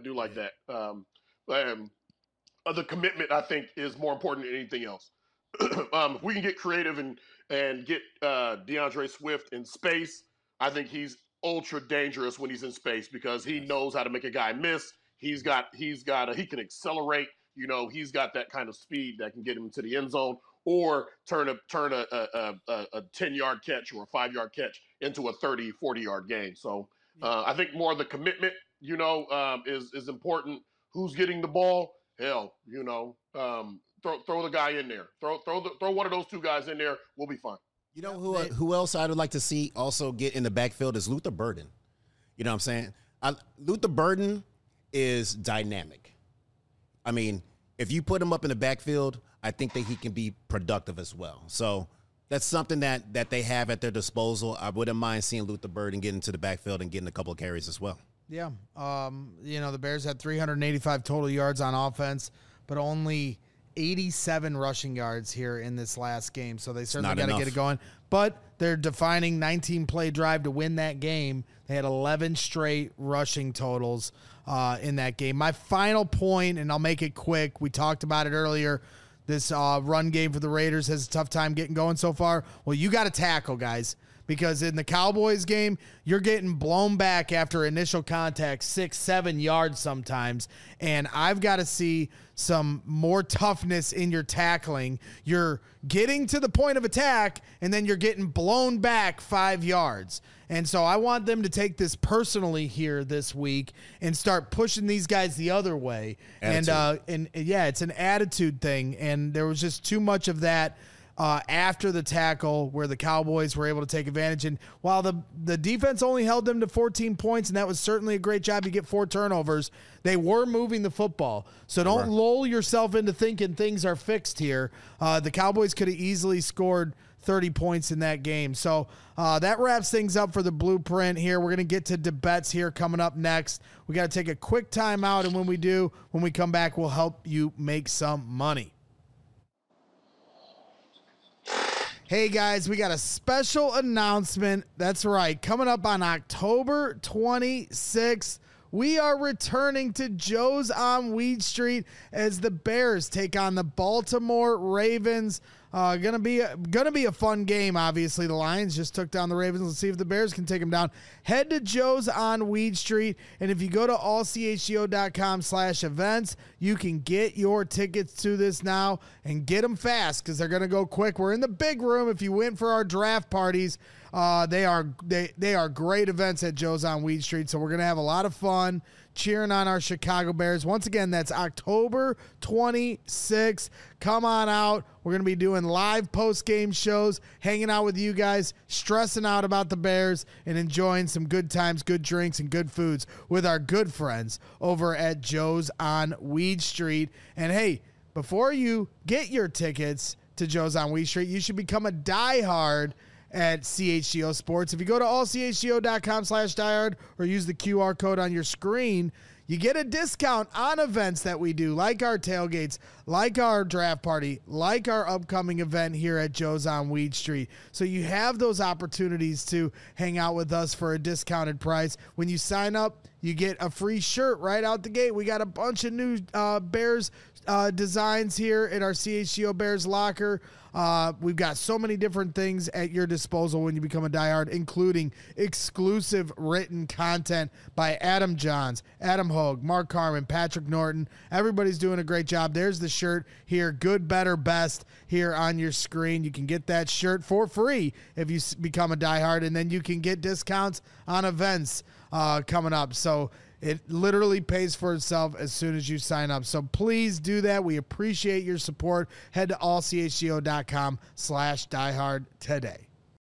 The commitment, I think, is more important than anything else. If we can get creative and get DeAndre Swift in space, I think he's ultra dangerous when he's in space because he knows how to make a guy miss. He can accelerate. He's got that kind of speed that can get him to the end zone or turn a 10-yard catch or a 5-yard catch into a 30, 40-yard gain. So I think more of the commitment, is important. Who's getting the ball? Hell, throw the guy in there. Throw one of those two guys in there. We'll be fine. Who else I would like to see also get in the backfield is Luther Burden. You know what I'm saying? Luther Burden is dynamic. I mean, if you put him up in the backfield, I think that he can be productive as well. So that's something that they have at their disposal. I wouldn't mind seeing Luther Burden get into the backfield and getting a couple of carries as well. Yeah. The Bears had 385 total yards on offense, but only 87 rushing yards here in this last game. So they certainly got to get it going. But they're defining 19-play drive to win that game. They had 11 straight rushing totals in that game. My final point, and I'll make it quick. We talked about it earlier. This run game for the Raiders has a tough time getting going so far. Well, you got to tackle, guys, because in the Cowboys game, you're getting blown back after initial contact 6-7 yards sometimes, and I've got to see some more toughness in your tackling. You're getting to the point of attack, and then you're getting blown back 5 yards. And so I want them to take this personally here this week and start pushing these guys the other way. Attitude. And yeah, it's an attitude thing. And there was just too much of that after the tackle where the Cowboys were able to take advantage. And while the defense only held them to 14 points, and that was certainly a great job, you get 4 turnovers, they were moving the football. So don't lull yourself into thinking things are fixed here. The Cowboys could have easily scored 30 points in that game. So that wraps things up for the blueprint here. We're going to get to debets here coming up next. We got to take a quick timeout, and when we come back, we'll help you make some money. Hey guys, we got a special announcement. That's right. Coming up on October 26th, we are returning to Joe's on Weed Street as the Bears take on the Baltimore Ravens. Gonna be a fun game. Obviously, the Lions just took down the Ravens. Let's see if the Bears can take them down. Head to Joe's on Weed Street, and if you go to allchgo.com/events, you can get your tickets to this now and get them fast because they're gonna go quick. We're in the big room. If you went for our draft parties, they are great events at Joe's on Weed Street. So we're gonna have a lot of fun cheering on our Chicago Bears. Once again, that's October 26th. Come on out. We're going to be doing live post-game shows, hanging out with you guys, stressing out about the Bears, and enjoying some good times, good drinks, and good foods with our good friends over at Joe's on Weed Street. And hey, before you get your tickets to Joe's on Weed Street, you should become a diehard at CHGO Sports. If you go to allchgo.com/diehard or use the QR code on your screen, you get a discount on events that we do, like our tailgates, like our draft party, like our upcoming event here at Joe's on Weed Street. So you have those opportunities to hang out with us for a discounted price. When you sign up, you get a free shirt right out the gate. We got a bunch of new Bears designs here at our CHGO Bears locker. We've got so many different things at your disposal when you become a diehard, including exclusive written content by Adam Johns, Adam Hogue, Mark Carman, Patrick Norton. Everybody's doing a great job. There's the shirt here, good, better, best, here on your screen. You can get that shirt for free if you become a diehard, and then you can get discounts on events coming up. So it literally pays for itself as soon as you sign up. So please do that. We appreciate your support. Head to allchgo.com/diehard today.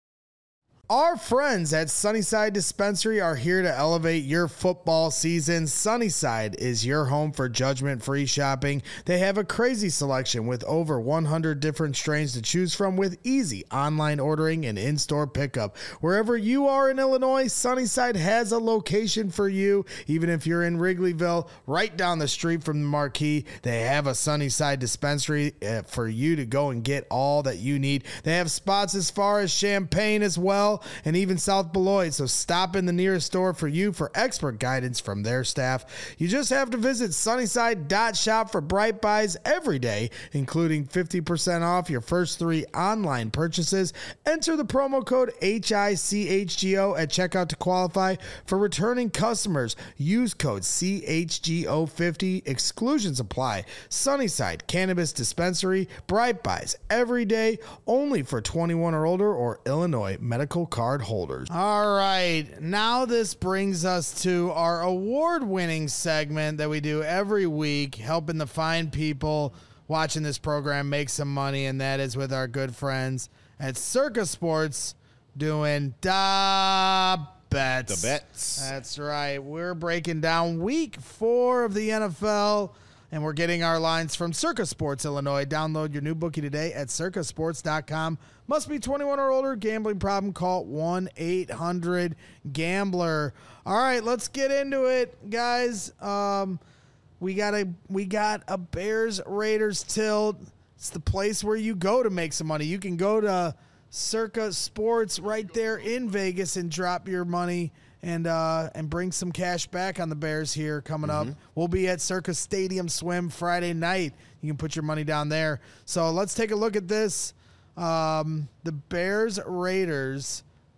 Our friends at Sunnyside Dispensary are here to elevate your football season. Sunnyside is your home for judgment-free shopping. They have a crazy selection with over 100 different strains to choose from with easy online ordering and in-store pickup. Wherever you are in Illinois, Sunnyside has a location for you. Even if you're in Wrigleyville, right down the street from the Marquee, they have a Sunnyside Dispensary for you to go and get all that you need. They have spots as far as Champaign as well, and even South Beloit, so stop in the nearest store for you for expert guidance from their staff. You just have to visit sunnyside.shop for bright buys every day, including 50% off your first 3 online purchases. Enter the promo code HICHGO at checkout to qualify. For returning customers, use code CHGO50. Exclusions apply. Sunnyside Cannabis Dispensary, bright buys every day, only for 21 or older or Illinois medical card holders. All right, now this brings us to our award-winning segment that we do every week, helping the fine people watching this program make some money, and that is with our good friends at Circa Sports doing da bets. The bets. That's right. We're breaking down week 4 of the NFL, and we're getting our lines from Circa Sports Illinois. Download your new bookie today at circasports.com. Must be 21 or older. Gambling problem, call 1-800-GAMBLER. All right, let's get into it, guys. We got a Bears-Raiders tilt. It's the place where you go to make some money. You can go to Circa Sports right there in Vegas and drop your money and bring some cash back on the Bears here coming up. We'll be at Circa Stadium Swim Friday night. You can put your money down there. So let's take a look at this. The Bears-Raiders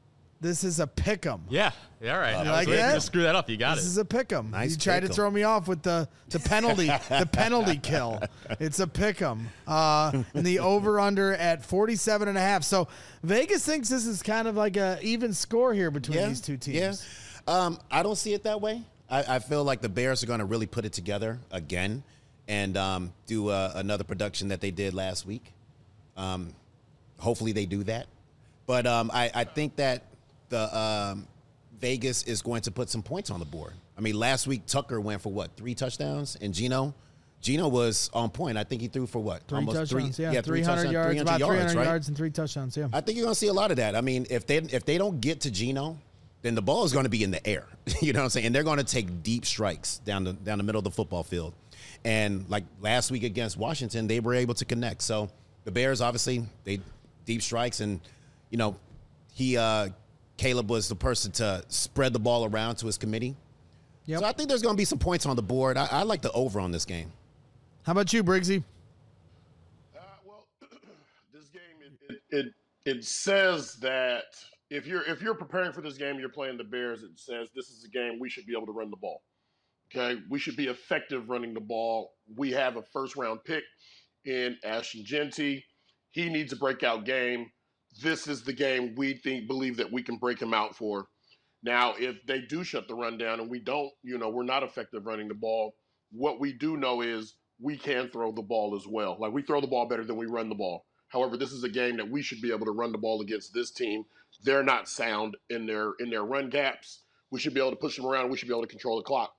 This is a pick'em. Yeah. All right. You like that? Screw that up. You got This it. is a pick'em. Nice You tried to pick'em. throw me off with the penalty, the penalty kill. It's a pick'em. And the over/under at 47.5. So Vegas thinks this is kind of like a even score here between these two teams. Yeah. I don't see it that way. I feel like the Bears are going to really put it together again and do another production that they did last week. Hopefully they do that. But I think that the Vegas is going to put some points on the board. I mean, last week Tucker went for what, 3 touchdowns, and Geno was on point. I think he threw for what, Almost touchdowns. 300 yards, about 300 right? yards and 3 touchdowns. Yeah, I think you're going to see a lot of that. I mean, if they don't get to Geno, then the ball is going to be in the air. You know what I'm saying? And they're going to take deep strikes down the middle of the football field. And like last week against Washington, they were able to connect. So the Bears, obviously, they deep strikes, and you know, Caleb was the person to spread the ball around to his committee. Yep. So I think there's going to be some points on the board. I like the over on this game. How about you, Briggsy? Well, this game it says that if you're preparing for this game, you're playing the Bears. It says this is a game we should be able to run the ball. Okay, we should be effective running the ball. We have a first-round pick in Ashton Jeanty. He needs a breakout game. This is the game we believe that we can break him out for. Now, if they do shut the run down and we don't, we're not effective running the ball, what we do know is we can throw the ball as well. Like, we throw the ball better than we run the ball. However, this is a game that we should be able to run the ball against this team. They're not sound in their run gaps. We should be able to push them around. We should be able to control the clock.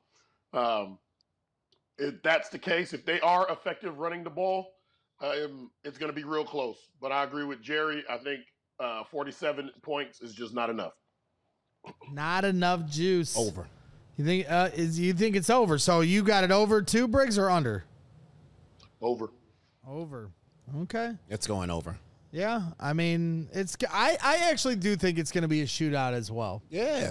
If that's the case, if they are effective running the ball, it's going to be real close. But I agree with Jerry. I think 47 points is just not enough. Not enough juice. Over. You think you think it's over? So you got it over too, Briggs, or under? Over. Over. Okay. It's going over. Yeah, I mean, I actually do think it's going to be a shootout as well. Yeah.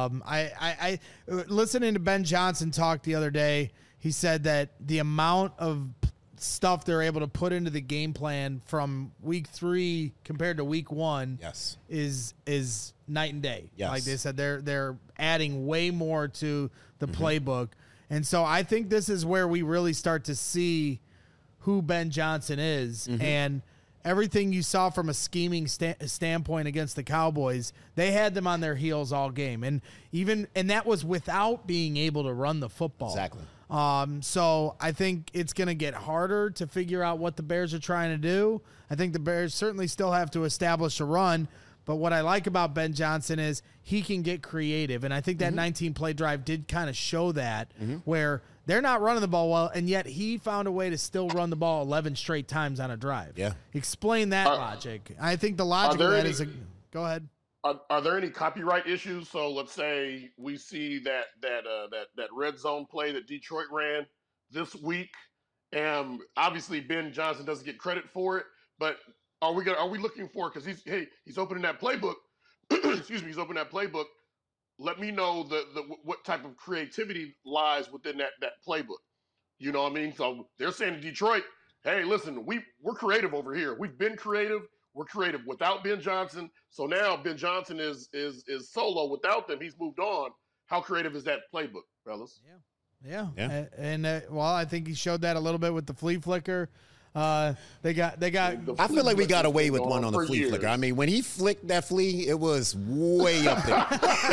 I listening to Ben Johnson talk the other day, he said that the amount of stuff they're able to put into the game plan from week 3 compared to week 1 Yes. is night and day. Yes. Like they said, they're adding way more to the playbook. And so I think this is where we really start to see who Ben Johnson is. And everything you saw from a scheming standpoint against the Cowboys, they had them on their heels all game. And that was without being able to run the football. Exactly. So I think it's going to get harder to figure out what the Bears are trying to do. I think the Bears certainly still have to establish a run. But what I like about Ben Johnson is he can get creative. And I think that 19-play drive did kind of show that, where they're not running the ball well, and yet he found a way to still run the ball 11 straight times on a drive. Yeah. Explain that logic. I think the logic of that is go ahead. Are there any copyright issues? So let's say we see that red zone play that Detroit ran this week, and obviously Ben Johnson doesn't get credit for it. But are we looking for, because he's opening that playbook? Excuse me, he's opening that playbook. Let me know what type of creativity lies within that playbook. You know what I mean? So they're saying to Detroit, hey, listen, we're creative over here. We've been creative. We're creative without Ben Johnson. So now Ben Johnson is solo without them. He's moved on. How creative is that playbook, fellas? Yeah. And I think he showed that a little bit with the flea flicker. They got. I feel like we got away with one on the flea flicker. I mean, when he flicked that flea, it was way up there.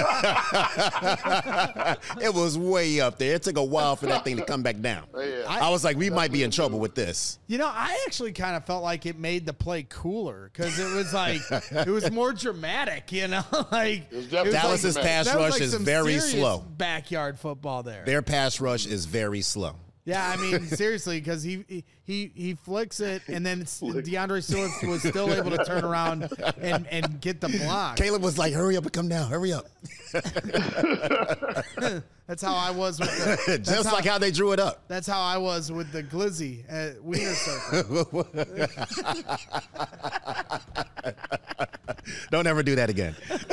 It was way up there. It took a while for that thing to come back down. Yeah. I was like, we might be in trouble with this. I actually kind of felt like it made the play cooler because it was like it was more dramatic. Like Dallas's pass rush is very slow. Backyard football there. Their pass rush is very slow. Yeah, I mean, seriously, because he flicks it, and then DeAndre Swift was still able to turn around and get the block. Caleb was like, hurry up and come down, hurry up. That's how I was with the... Just like how they drew it up. That's how I was with the glizzy at Wiener Circle. Don't ever do that again.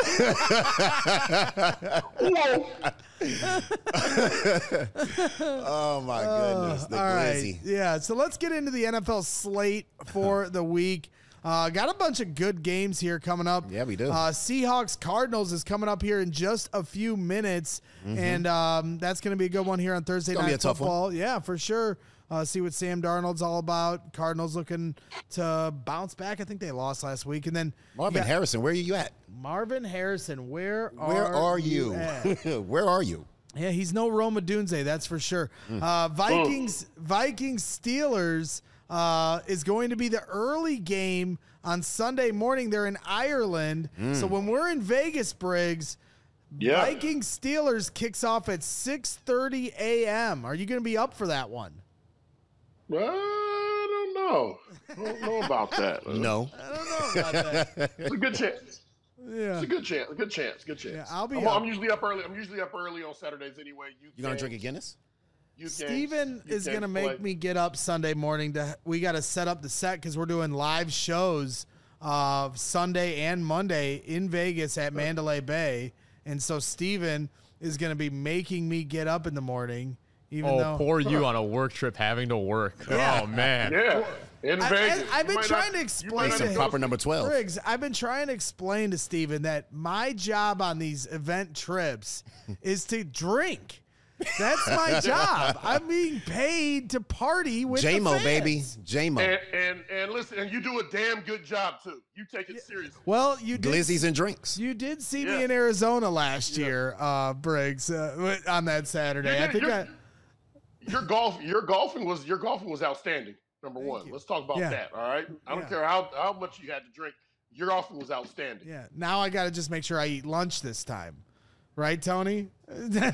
Oh, my goodness. The all glizzy. right. Yeah, so let's get into the NFL slate for the week. Got a bunch of good games here coming up. Yeah, we do. Seahawks Cardinals is coming up here in just a few minutes, and that's going to be a good one here on Thursday Night Football. Yeah, for sure. See what Sam Darnold's all about. Cardinals looking to bounce back. I think they lost last week. And then Marvin Harrison, where are you at? Marvin Harrison, where are you? Where are you? Yeah, he's no Roma Dunze, that's for sure. Vikings Steelers is going to be the early game on Sunday morning. They're in Ireland. So when we're in Vegas, Briggs, Vikings Steelers kicks off at 6:30 a.m. Are you going to be up for that one? I don't know. I don't know about that. No. I don't know about that. It's a good chance. Yeah. It's a good chance. Good chance. Yeah, I'm usually up early. I'm usually up early on Saturdays anyway. You gonna drink a Guinness? Steven is gonna make me get up Sunday morning. We got to set up the set because we're doing live shows Sunday and Monday in Vegas at Mandalay Bay, and so Steven is gonna be making me get up in the morning. Poor you on a work trip having to work. Yeah. Oh, man. Yeah. In Vegas. I've been trying to explain to him. Proper number 12. Briggs, I've been trying to explain to Steven that my job on these event trips is to drink. That's my job. I'm being paid to party with J-Mo, the fans. baby. J-Mo. And listen, and you do a damn good job, too. You take it seriously. Well, you did. Glizzies and drinks. You did see me in Arizona last year, Briggs, on that Saturday. Your golfing was outstanding. Number one. Let's talk about that. All right. I don't care how much you had to drink. Your golfing was outstanding. Yeah. Now I got to just make sure I eat lunch this time. Right, Tony? Our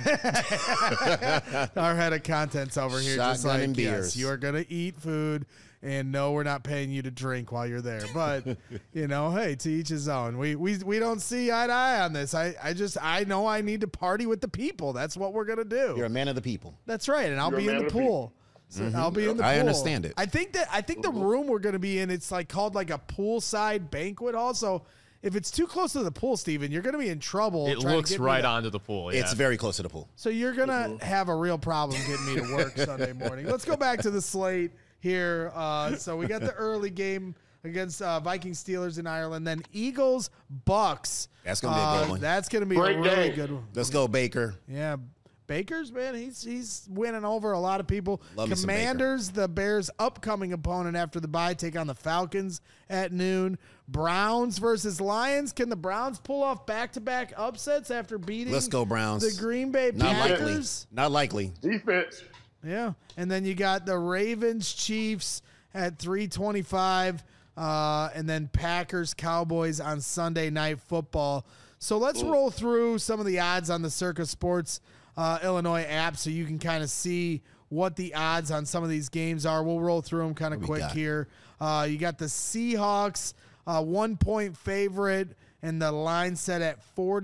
head of content's over here. Shotgun just like, and beers. yes, you are going to eat food, and no, we're not paying you to drink while you're there. But, hey, to each his own. We don't see eye to eye on this. I know I need to party with the people. That's what we're going to do. You're a man of the people. That's right, and I'll be in the pool. So I'll be in the pool. I understand it. I think the room we're going to be in, it's called a poolside banquet hall. So if it's too close to the pool, Steven, you're going to be in trouble. It looks right onto the pool. Yeah. It's very close to the pool. So you're going to have a real problem getting me to work Sunday morning. Let's go back to the slate here. So we got the early game against Vikings Steelers in Ireland, then Eagles Bucks. That's going to be a good one. That's going to be a really good one. Let's go, Baker. Yeah. Baker's, man, he's winning over a lot of people. Love Commanders, the Bears' upcoming opponent after the bye, take on the Falcons at noon. Browns versus Lions. Can the Browns pull off back-to-back upsets after beating Let's go, Browns. the Green Bay Packers? Not likely. Defense. Yeah. And then you got the Ravens, Chiefs at 3:25, and then Packers, Cowboys on Sunday Night Football. So let's roll through some of the odds on the Circa Sports Illinois app so you can kind of see what the odds on some of these games are. We'll roll through them kind of quick here. You got the Seahawks, 1-point favorite, and the line set at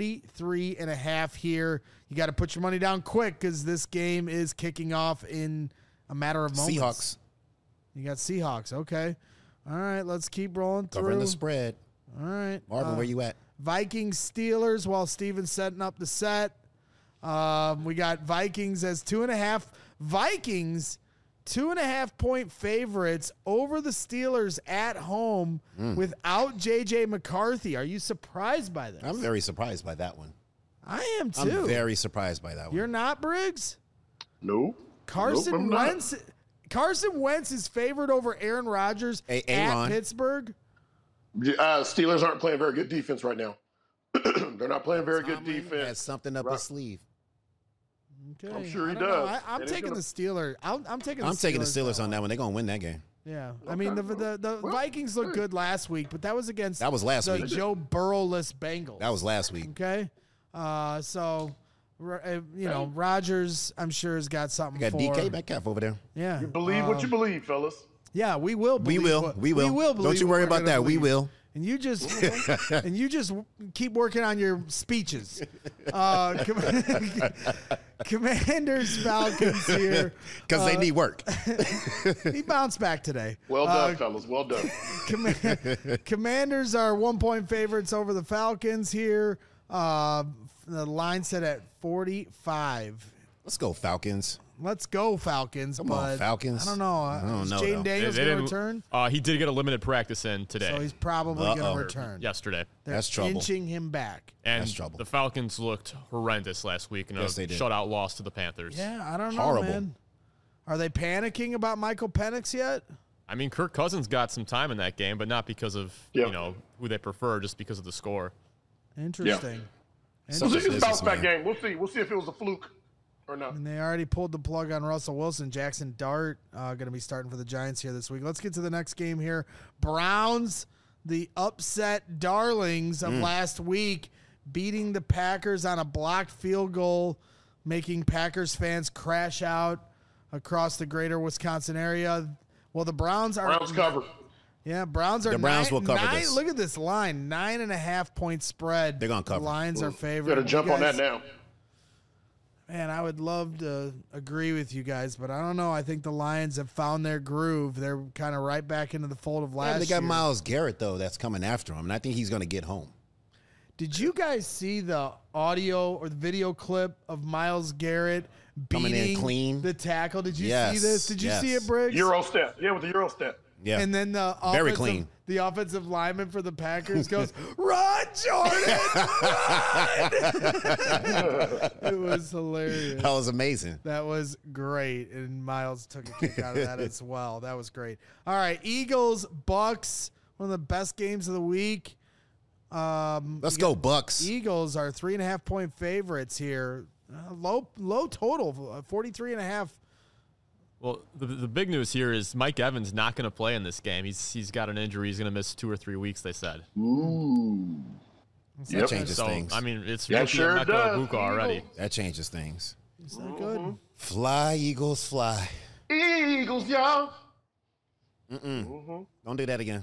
43.5 here. You got to put your money down quick because this game is kicking off in a matter of moments. Seahawks. You got Seahawks. Okay. All right, let's keep rolling through. Covering the spread. All right. Marvin, where you at? Vikings Steelers while Steven's setting up the set. We got Vikings as 2.5. Vikings, 2.5-point favorites over the Steelers at home without J.J. McCarthy. Are you surprised by this? I'm very surprised by that one. I am too. I'm very surprised by that one. You're not, Briggs? No. Carson Wentz is favored over Aaron Rodgers at Pittsburgh. Steelers aren't playing very good defense right now. They're not playing very good defense. Has something up his sleeve. Okay. I'm sure he does. I'm taking the Steelers. I'm taking the Steelers on that one. They're going to win that game. Yeah. Okay. I mean, the Vikings looked good last week, but that was against last week. Joe Burrow-less Bengals. That was last week. Okay. Rodgers, I'm sure, has got something got for. DK Metcalf over there. Yeah. You believe what you believe, fellas. Yeah, we will believe. We will. Don't you worry about that. We will. And you just keep working on your speeches. Commanders, Falcons here. Because they need work. He bounced back today. Well done, fellas. Well done. Commanders are 1-point favorites over the Falcons here. The line set at 45. Let's go, Falcons. let's go Falcons. Come on, Falcons. I don't know. I don't know. Jaden Daniels going to return? He did get a limited practice in today. So he's probably going to return. Yesterday. That's trouble. Inching him back. And That's trouble. The Falcons looked horrendous last week in a shutout loss to the Panthers. Yeah, I don't know, man. Are they panicking about Michael Penix yet? I mean, Kirk Cousins got some time in that game, but not because of who they prefer, just because of the score. Interesting. We'll see if it's a bounce back game. We'll see. We'll see if it was a fluke or not. And they already pulled the plug on Russell Wilson. Jackson Dart going to be starting for the Giants here this week. Let's get to the next game here. Browns, the upset darlings of last week, beating the Packers on a blocked field goal, making Packers fans crash out across the greater Wisconsin area. Well, the Browns covered. Yeah, Browns are. The Browns will cover this. Look at this line, 9.5 point spread. They're gonna cover. The Lions are favored. Got to jump on that now. Man, I would love to agree with you guys, but I don't know. I think the Lions have found their groove. They're kind of right back into the fold of last year. They got Myles Garrett though, that's coming after him, and I think he's going to get home. Did you guys see the audio or the video clip of Myles Garrett beating the tackle? Did you see this? Did you see it, Briggs? Euro step. Yeah, with the Euro step. Yeah. And then the very clean. The offensive lineman for the Packers goes, "Run, Jordan! Run!" It was hilarious. That was amazing. That was great, and Myles took a kick out of that as well. That was great. All right, Eagles, Bucks, one of the best games of the week. Let's go, Bucks. Eagles are 3.5 point favorites here. Low total, 43.5. Well, the big news here is Mike Evans not going to play in this game. He's got an injury. He's going to miss 2 or 3 weeks, they said. Ooh. That changes things. I mean, it's sure does. already. That changes things. Is that good? Fly, Eagles, fly. Eagles, y'all. Don't do that again.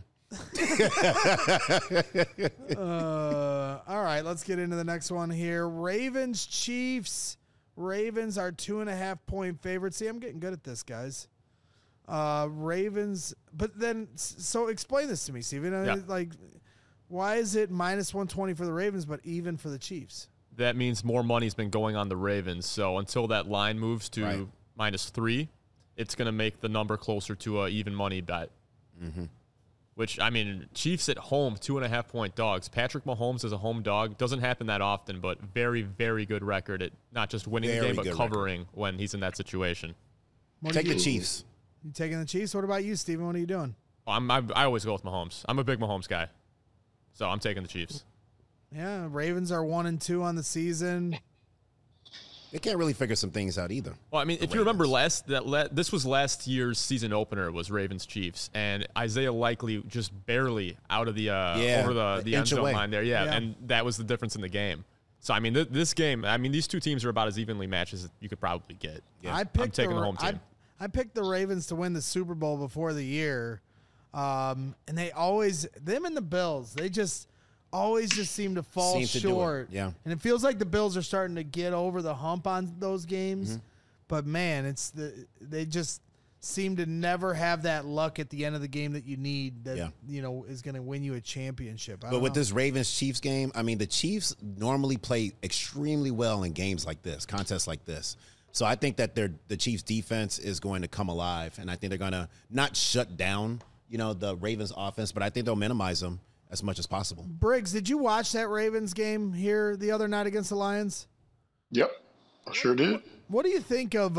All right, let's get into the next one here. Ravens, Chiefs. Ravens are 2.5 point favorites. See, I'm getting good at this, guys. Ravens, but then, so explain this to me, Steven. Like, why is it minus 120 for the Ravens, but even for the Chiefs? That means more money's been going on the Ravens. So until that line moves to -3, it's going to make the number closer to a even money bet. Mm-hmm. Which, I mean, Chiefs at home, 2.5 point dogs. Patrick Mahomes as a home dog doesn't happen that often, but very, very good record at not just winning the game, but covering when he's in that situation. Take the Chiefs. You taking the Chiefs? What about you, Steven? What are you doing? I always go with Mahomes. I'm a big Mahomes guy, so I'm taking the Chiefs. Yeah, Ravens are 1-2 on the season. They can't really figure some things out either. Well, I mean, if you remember this was last year's season opener was Ravens Chiefs, and Isaiah Likely just barely out of the over the end zone line there. Yeah, and that was the difference in the game. So I mean, this game, I mean, these two teams are about as evenly matched as you could probably get. Yeah. I'm taking the home team. I picked the Ravens to win the Super Bowl before the year, and them and the Bills, they just always seem to fall short. Yeah. And it feels like the Bills are starting to get over the hump on those games. Mm-hmm. But man, they just seem to never have that luck at the end of the game that you need that is going to win you a championship. But with this Ravens-Chiefs game, I mean, the Chiefs normally play extremely well in games like this, contests like this. So I think that the Chiefs defense is going to come alive, and I think they're going to not shut down, the Ravens offense, but I think they'll minimize them as much as possible. Briggs, did you watch that Ravens game here the other night against the Lions? Yep, I sure did. What do you think of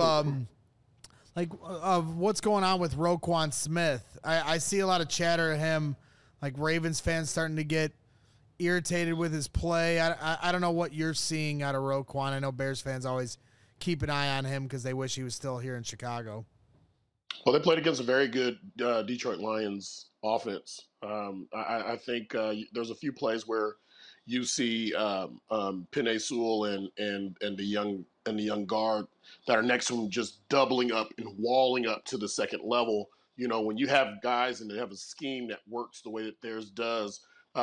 of what's going on with Roquan Smith? I see a lot of chatter of him, like Ravens fans starting to get irritated with his play. I don't know what you're seeing out of Roquan. I know Bears fans always keep an eye on him because they wish he was still here in Chicago. Well, they played against a very good Detroit Lions offense. I think there's a few plays where you see Penei Sewell and the young guard that are next to him just doubling up and walling up to the second level. When you have guys and they have a scheme that works the way that theirs does,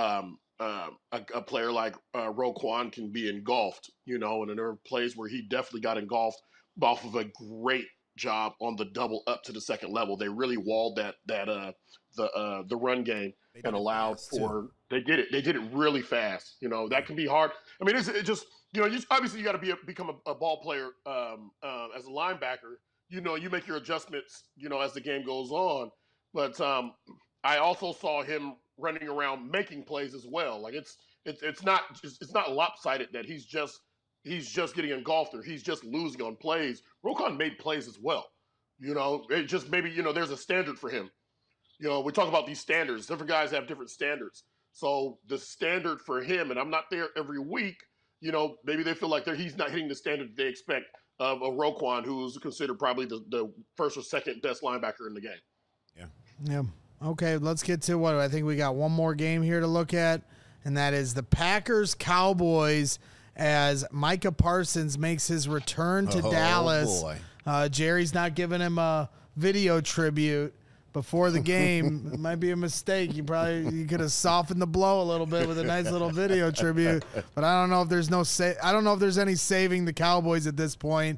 a player like Roquan can be engulfed. And there are plays where he definitely got engulfed off of a great job on the double up to the second level. They really walled the run game and allowed for they did it really fast. You know, that can be hard. I mean, it just, you know, obviously you got to become a ball player as a linebacker. You know, you make your adjustments, you know, as the game goes on. But I also saw him running around making plays as well. Like it's not lopsided that he's just getting engulfed or he's just losing on plays. Roquan made plays as well. You know, it just maybe, you know, there's a standard for him. You know, we talk about these standards. Different guys have different standards. So the standard for him, and I'm not there every week, you know, maybe they feel like he's not hitting the standard they expect of a Roquan, who's considered probably the first or second best linebacker in the game. Yeah. Yeah. Okay, let's get to what I think we got one more game here to look at, and that is the Packers-Cowboys as Micah Parsons makes his return to Dallas. Boy. Jerry's not giving him a video tribute before the game. It might be a mistake. You could have softened the blow a little bit with a nice little video tribute, but I don't know if there's any saving the Cowboys at this point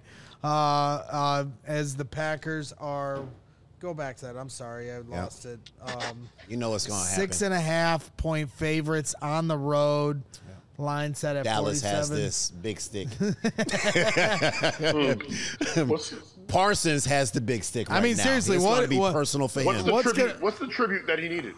as the Packers are. Go back to that. I'm sorry, I lost it. You know what's going to happen. 6.5 point favorites on the road. Line set at Dallas 47. has this big stick. Parsons has the big stick right now. I mean, seriously, what be personal for him. What's the tribute that he needed?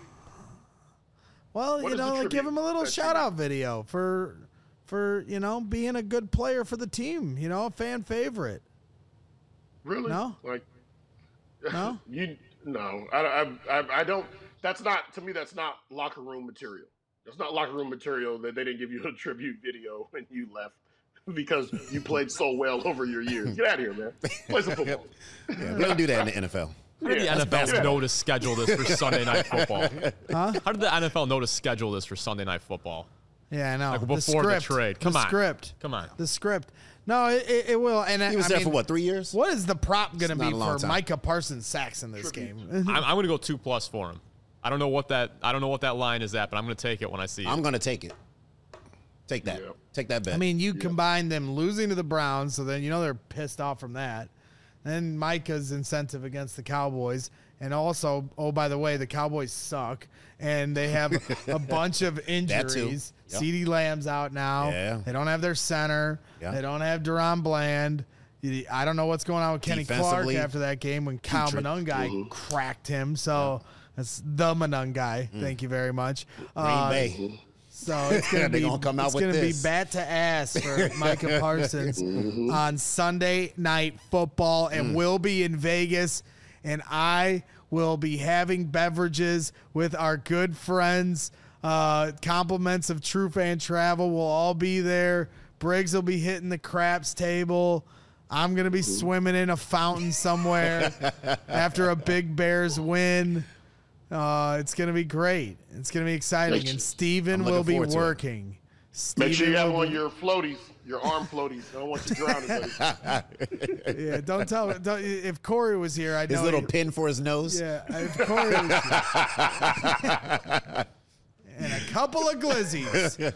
Well, you know, like give him a little shout-out video for you know, being a good player for the team, you know, a fan favorite. Really? No? Like, no? No. I don't. That's not, to me, that's not locker room material. It's not locker room material that they didn't give you a tribute video when you left because you played so well over your years. Get out of here, man. Play some football. Yeah, we don't do that in the NFL. How did the NFL know to schedule this for Sunday Night Football? Huh? How did the NFL know to schedule this for Sunday Night Football? Yeah, I know. Like before the trade. Come on. The script. No, it will. And he was there for what, 3 years? What is the prop going to be for Micah Parsons sacks in this game? I'm going to go 2+ for him. I don't know what that line is at, but I'm going to take it when I see it. I'm going to take it. Take that. Yeah. Take that bet. I mean, you combine them losing to the Browns, so then you know they're pissed off from that. Then Micah's incentive against the Cowboys. And also, oh, by the way, the Cowboys suck. And they have a bunch of injuries. Yep. CeeDee Lamb's out now. Yeah. They don't have their center. Yeah. They don't have Deron Bland. I don't know what's going on with Kenny Clark after that game when Kyle Monangai cracked him. So that's the Monangai. Thank you very much. Green Bay. So it's going to be bat to ass for Micah Parsons on Sunday Night Football, and we'll be in Vegas, and I will be having beverages with our good friends. Compliments of True Fan Travel will all be there. Briggs will be hitting the craps table. I'm going to be swimming in a fountain somewhere after a big Bears win. It's going to be great. It's going to be exciting. And Steven will be working. Make sure you have on your floaties, your arm floaties. I don't want you drowning, buddy. Yeah, don't tell me. If Corey was here, I'd know. His little pin for his nose? Yeah, if Corey was here. And a couple of glizzies.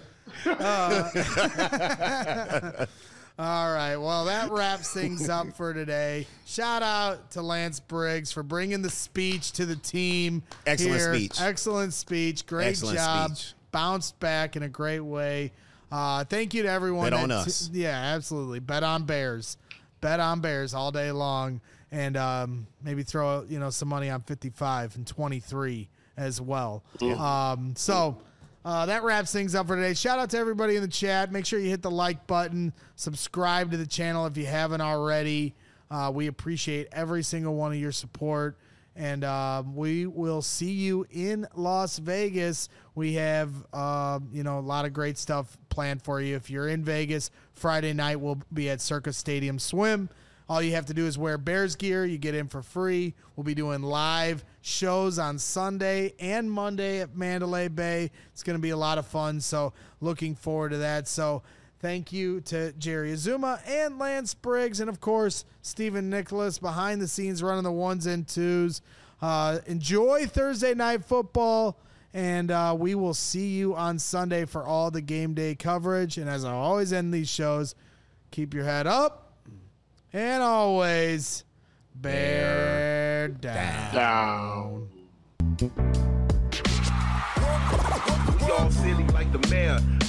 All right, well, that wraps things up for today. Shout out to Lance Briggs for bringing the speech to the team. Excellent speech. Great job. Bounced back in a great way. Thank you to everyone. Bet on us. Yeah, absolutely. Bet on Bears. Bet on Bears all day long. And maybe throw some money on 55 and 23 as well. Yeah. That wraps things up for today. Shout out to everybody in the chat. Make sure you hit the like button. Subscribe to the channel if you haven't already. We appreciate every single one of your support. And we will see you in Las Vegas. We have, a lot of great stuff planned for you. If you're in Vegas, Friday night we'll be at Circus Stadium Swim. All you have to do is wear Bears gear. You get in for free. We'll be doing live shows on Sunday and Monday at Mandalay Bay. It's going to be a lot of fun, so looking forward to that. So thank you to Jerry Azuma and Lance Briggs, and, of course, Stephen Nicholas behind the scenes running the ones and twos. Enjoy Thursday Night Football, and we will see you on Sunday for all the game day coverage. And as I always end these shows, keep your head up. And always Bear down. We all silly like the mayor.